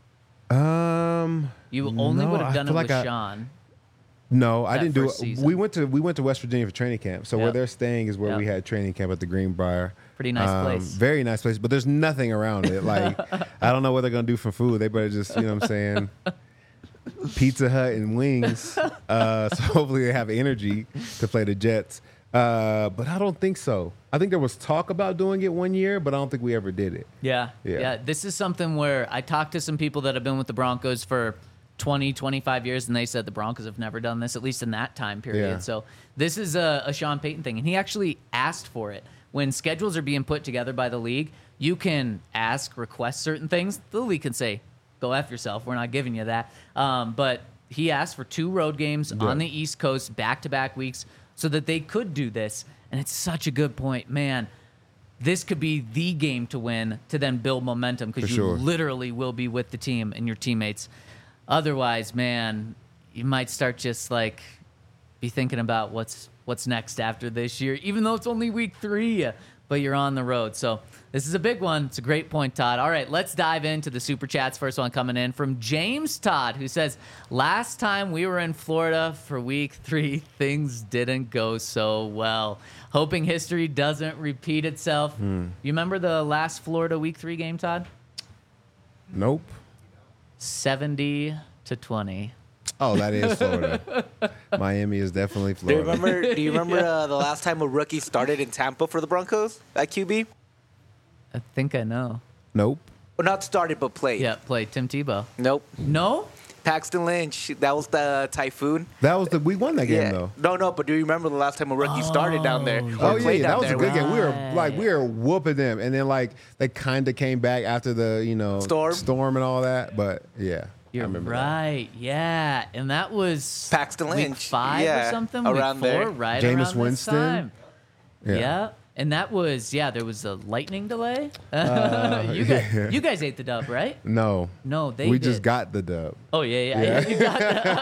You only would have done it with Sean. No, I didn't do it. season. We went to West Virginia for training camp. So where they're staying is where we had training camp at the Greenbrier. Pretty nice place. Very nice place, but there's nothing around it. Like, I don't know what they're going to do for food. They better just, you know what I'm saying, Pizza Hut and wings. So hopefully they have energy to play the Jets. But I don't think so. I think there was talk about doing it one year, but I don't think we ever did it. Yeah. This is something where I talked to some people that have been with the Broncos for 20, 25 years, and they said the Broncos have never done this, at least in that time period. Yeah. So this is a Sean Payton thing, and he actually asked for it. When schedules are being put together by the league, you can request certain things. The league can say, go F yourself. We're not giving you that. But he asked for 2 road games on the East Coast, back-to-back weeks, so that they could do this. And it's such a good point. Man, this could be the game to win to then build momentum because you literally will be with the team and your teammates. Otherwise, man, you might start just like be thinking about what's next after this year, even though it's only week 3, but you're on the road. So this is a big one. It's a great point, Todd. All right, let's dive into the Super Chats. First one coming in from James Todd, who says, last time we were in Florida for week 3, things didn't go so well. Hoping history doesn't repeat itself. You remember the last Florida week 3 game, Todd? Nope. 70-20. Oh, that is Florida. Miami is definitely Florida. Do you remember the last time a rookie started in Tampa for the Broncos at QB? I think I know. Nope. Well, not started, but played. Yeah, play Tim Tebow. Nope. No? Paxton Lynch. That was the Typhoon. That was we won that game though. No, but do you remember the last time a rookie started down there? Oh Or yeah, played that down was a there? good game. We were whooping them, and then like they kind of came back after the storm and all that. But yeah, You're I remember right. Yeah, and that was Paxton week Lynch. 5 Yeah, or something. around week 4, there. right Jameis around this Winston. time. that. Yeah. And that was there was a lightning delay. You guys ate the dub, right? No, No, we did. just got the dub. Oh yeah. You got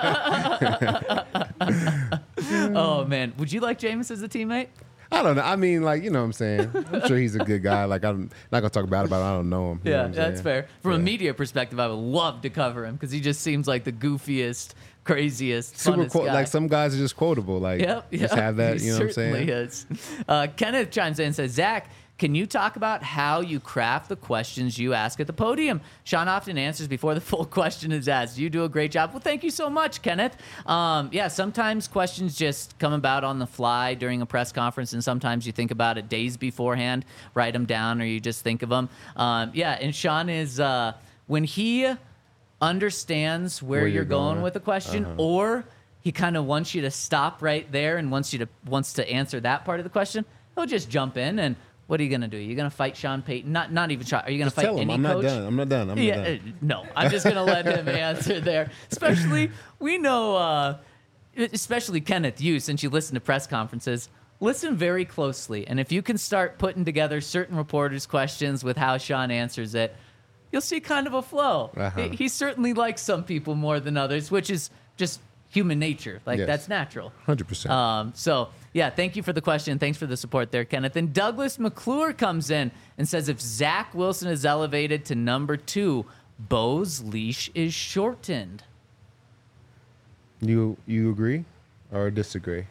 that. Oh man, would you like Jameis as a teammate? I don't know. I mean, like, you know what I'm saying? I'm sure he's a good guy. Like, I'm not going to talk bad about him. I don't know him. You know Yeah, what I'm that's saying? fair. From a Yeah. media perspective, I would love to cover him because he just seems like the goofiest, craziest, Super funnest guy. like some guys are just quotable. Like, just have that, he you know what I'm certainly saying? is. Kenneth chimes in and says, Zach, can you talk about how you craft the questions you ask at the podium? Sean often answers before the full question is asked. You do a great job. Well, thank you so much, Kenneth. Sometimes questions just come about on the fly during a press conference, and sometimes you think about it days beforehand, write them down, or you just think of them. And Sean is, when he understands where you're going with a question, or he kind of wants you to stop right there and wants to answer that part of the question, he'll just jump in and what are you going to do? You're going to fight Sean Payton? Not even try. Are you going to fight Tell him any I'm coach? not done. I'm not done. I'm not done. No, I'm just going to let him answer there. Especially, we know, especially Kenneth, you, since you listen to press conferences, listen very closely. And if you can start putting together certain reporters' questions with how Sean answers it, you'll see kind of a flow. Uh-huh. He certainly likes some people more than others, which is just human nature. Like, Yes. that's natural. 100%. Thank you for the question. Thanks for the support there, Kenneth. And Douglas McClure comes in and says, if Zach Wilson is elevated to number 2, Bo's leash is shortened. You agree or disagree?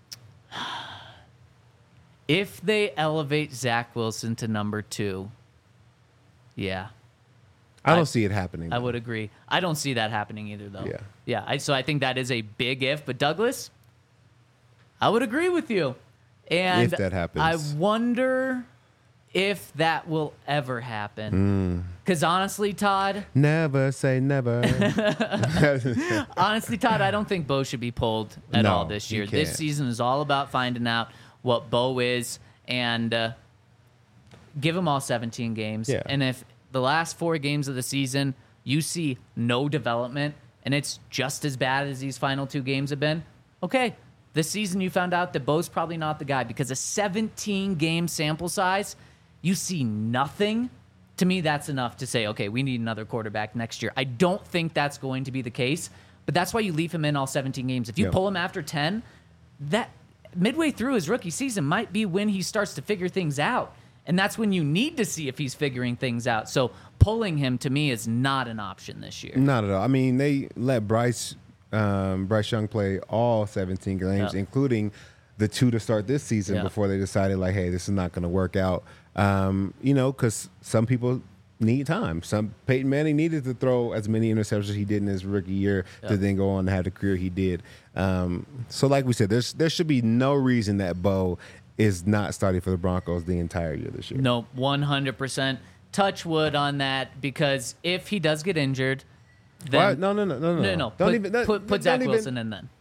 If they elevate Zach Wilson to number 2, yeah, I don't see it happening. I would agree. I don't see that happening either, though. Yeah. Yeah. So I think that is a big if. But Douglas, I would agree with you. And If that happens. I wonder if that will ever happen. Because honestly, Todd, Never say never. honestly, Todd, I don't think Bo should be pulled at No, all this you year. This can't. season is all about finding out what Bo is and give him all 17 games. Yeah. And if the last 4 games of the season you see no development and it's just as bad as these final 2 games have been, okay, this season you found out that Bo's probably not the guy because a 17-game sample size, you see nothing. To me, that's enough to say, okay, we need another quarterback next year. I don't think that's going to be the case, but that's why you leave him in all 17 games. If you Yeah. pull him after 10, that midway through his rookie season might be when he starts to figure things out. And that's when you need to see if he's figuring things out. So pulling him, to me, is not an option this year. Not at all. I mean, they let Bryce Young play all 17 games, Yeah. including the 2 to start this season Yeah. before they decided, like, hey, this is not going to work out. Because some people need time. Peyton Manning needed to throw as many interceptions as he did in his rookie year to then go on to have the career he did. So like we said, there should be no reason that Bo is not starting for the Broncos the entire year this year. No, 100%. Touch wood on that, because if he does get injured, then What? No. No. Put Zach Wilson in then.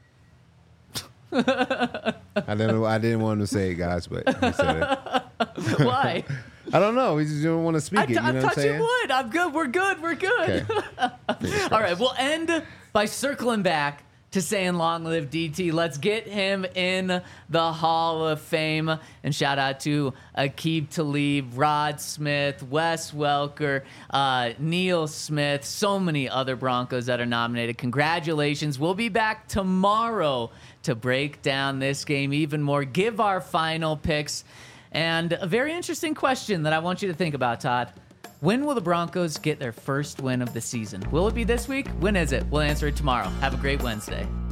I didn't want to say it, guys, but he said it. Why? I don't know. We just don't want to speak it. You know I'm what I'm touching saying? wood. I'm good. We're good. Okay. All right. We'll end by circling back to saying long live DT. Let's get him in the Hall of Fame. And shout out to Aqib Talib, Rod Smith, Wes Welker, Neil Smith, so many other Broncos that are nominated. Congratulations. We'll be back tomorrow to break down this game even more, give our final picks, and a very interesting question that I want you to think about, Todd. When will the Broncos get their first win of the season? Will it be this week? When is it? We'll answer it tomorrow. Have a great Wednesday.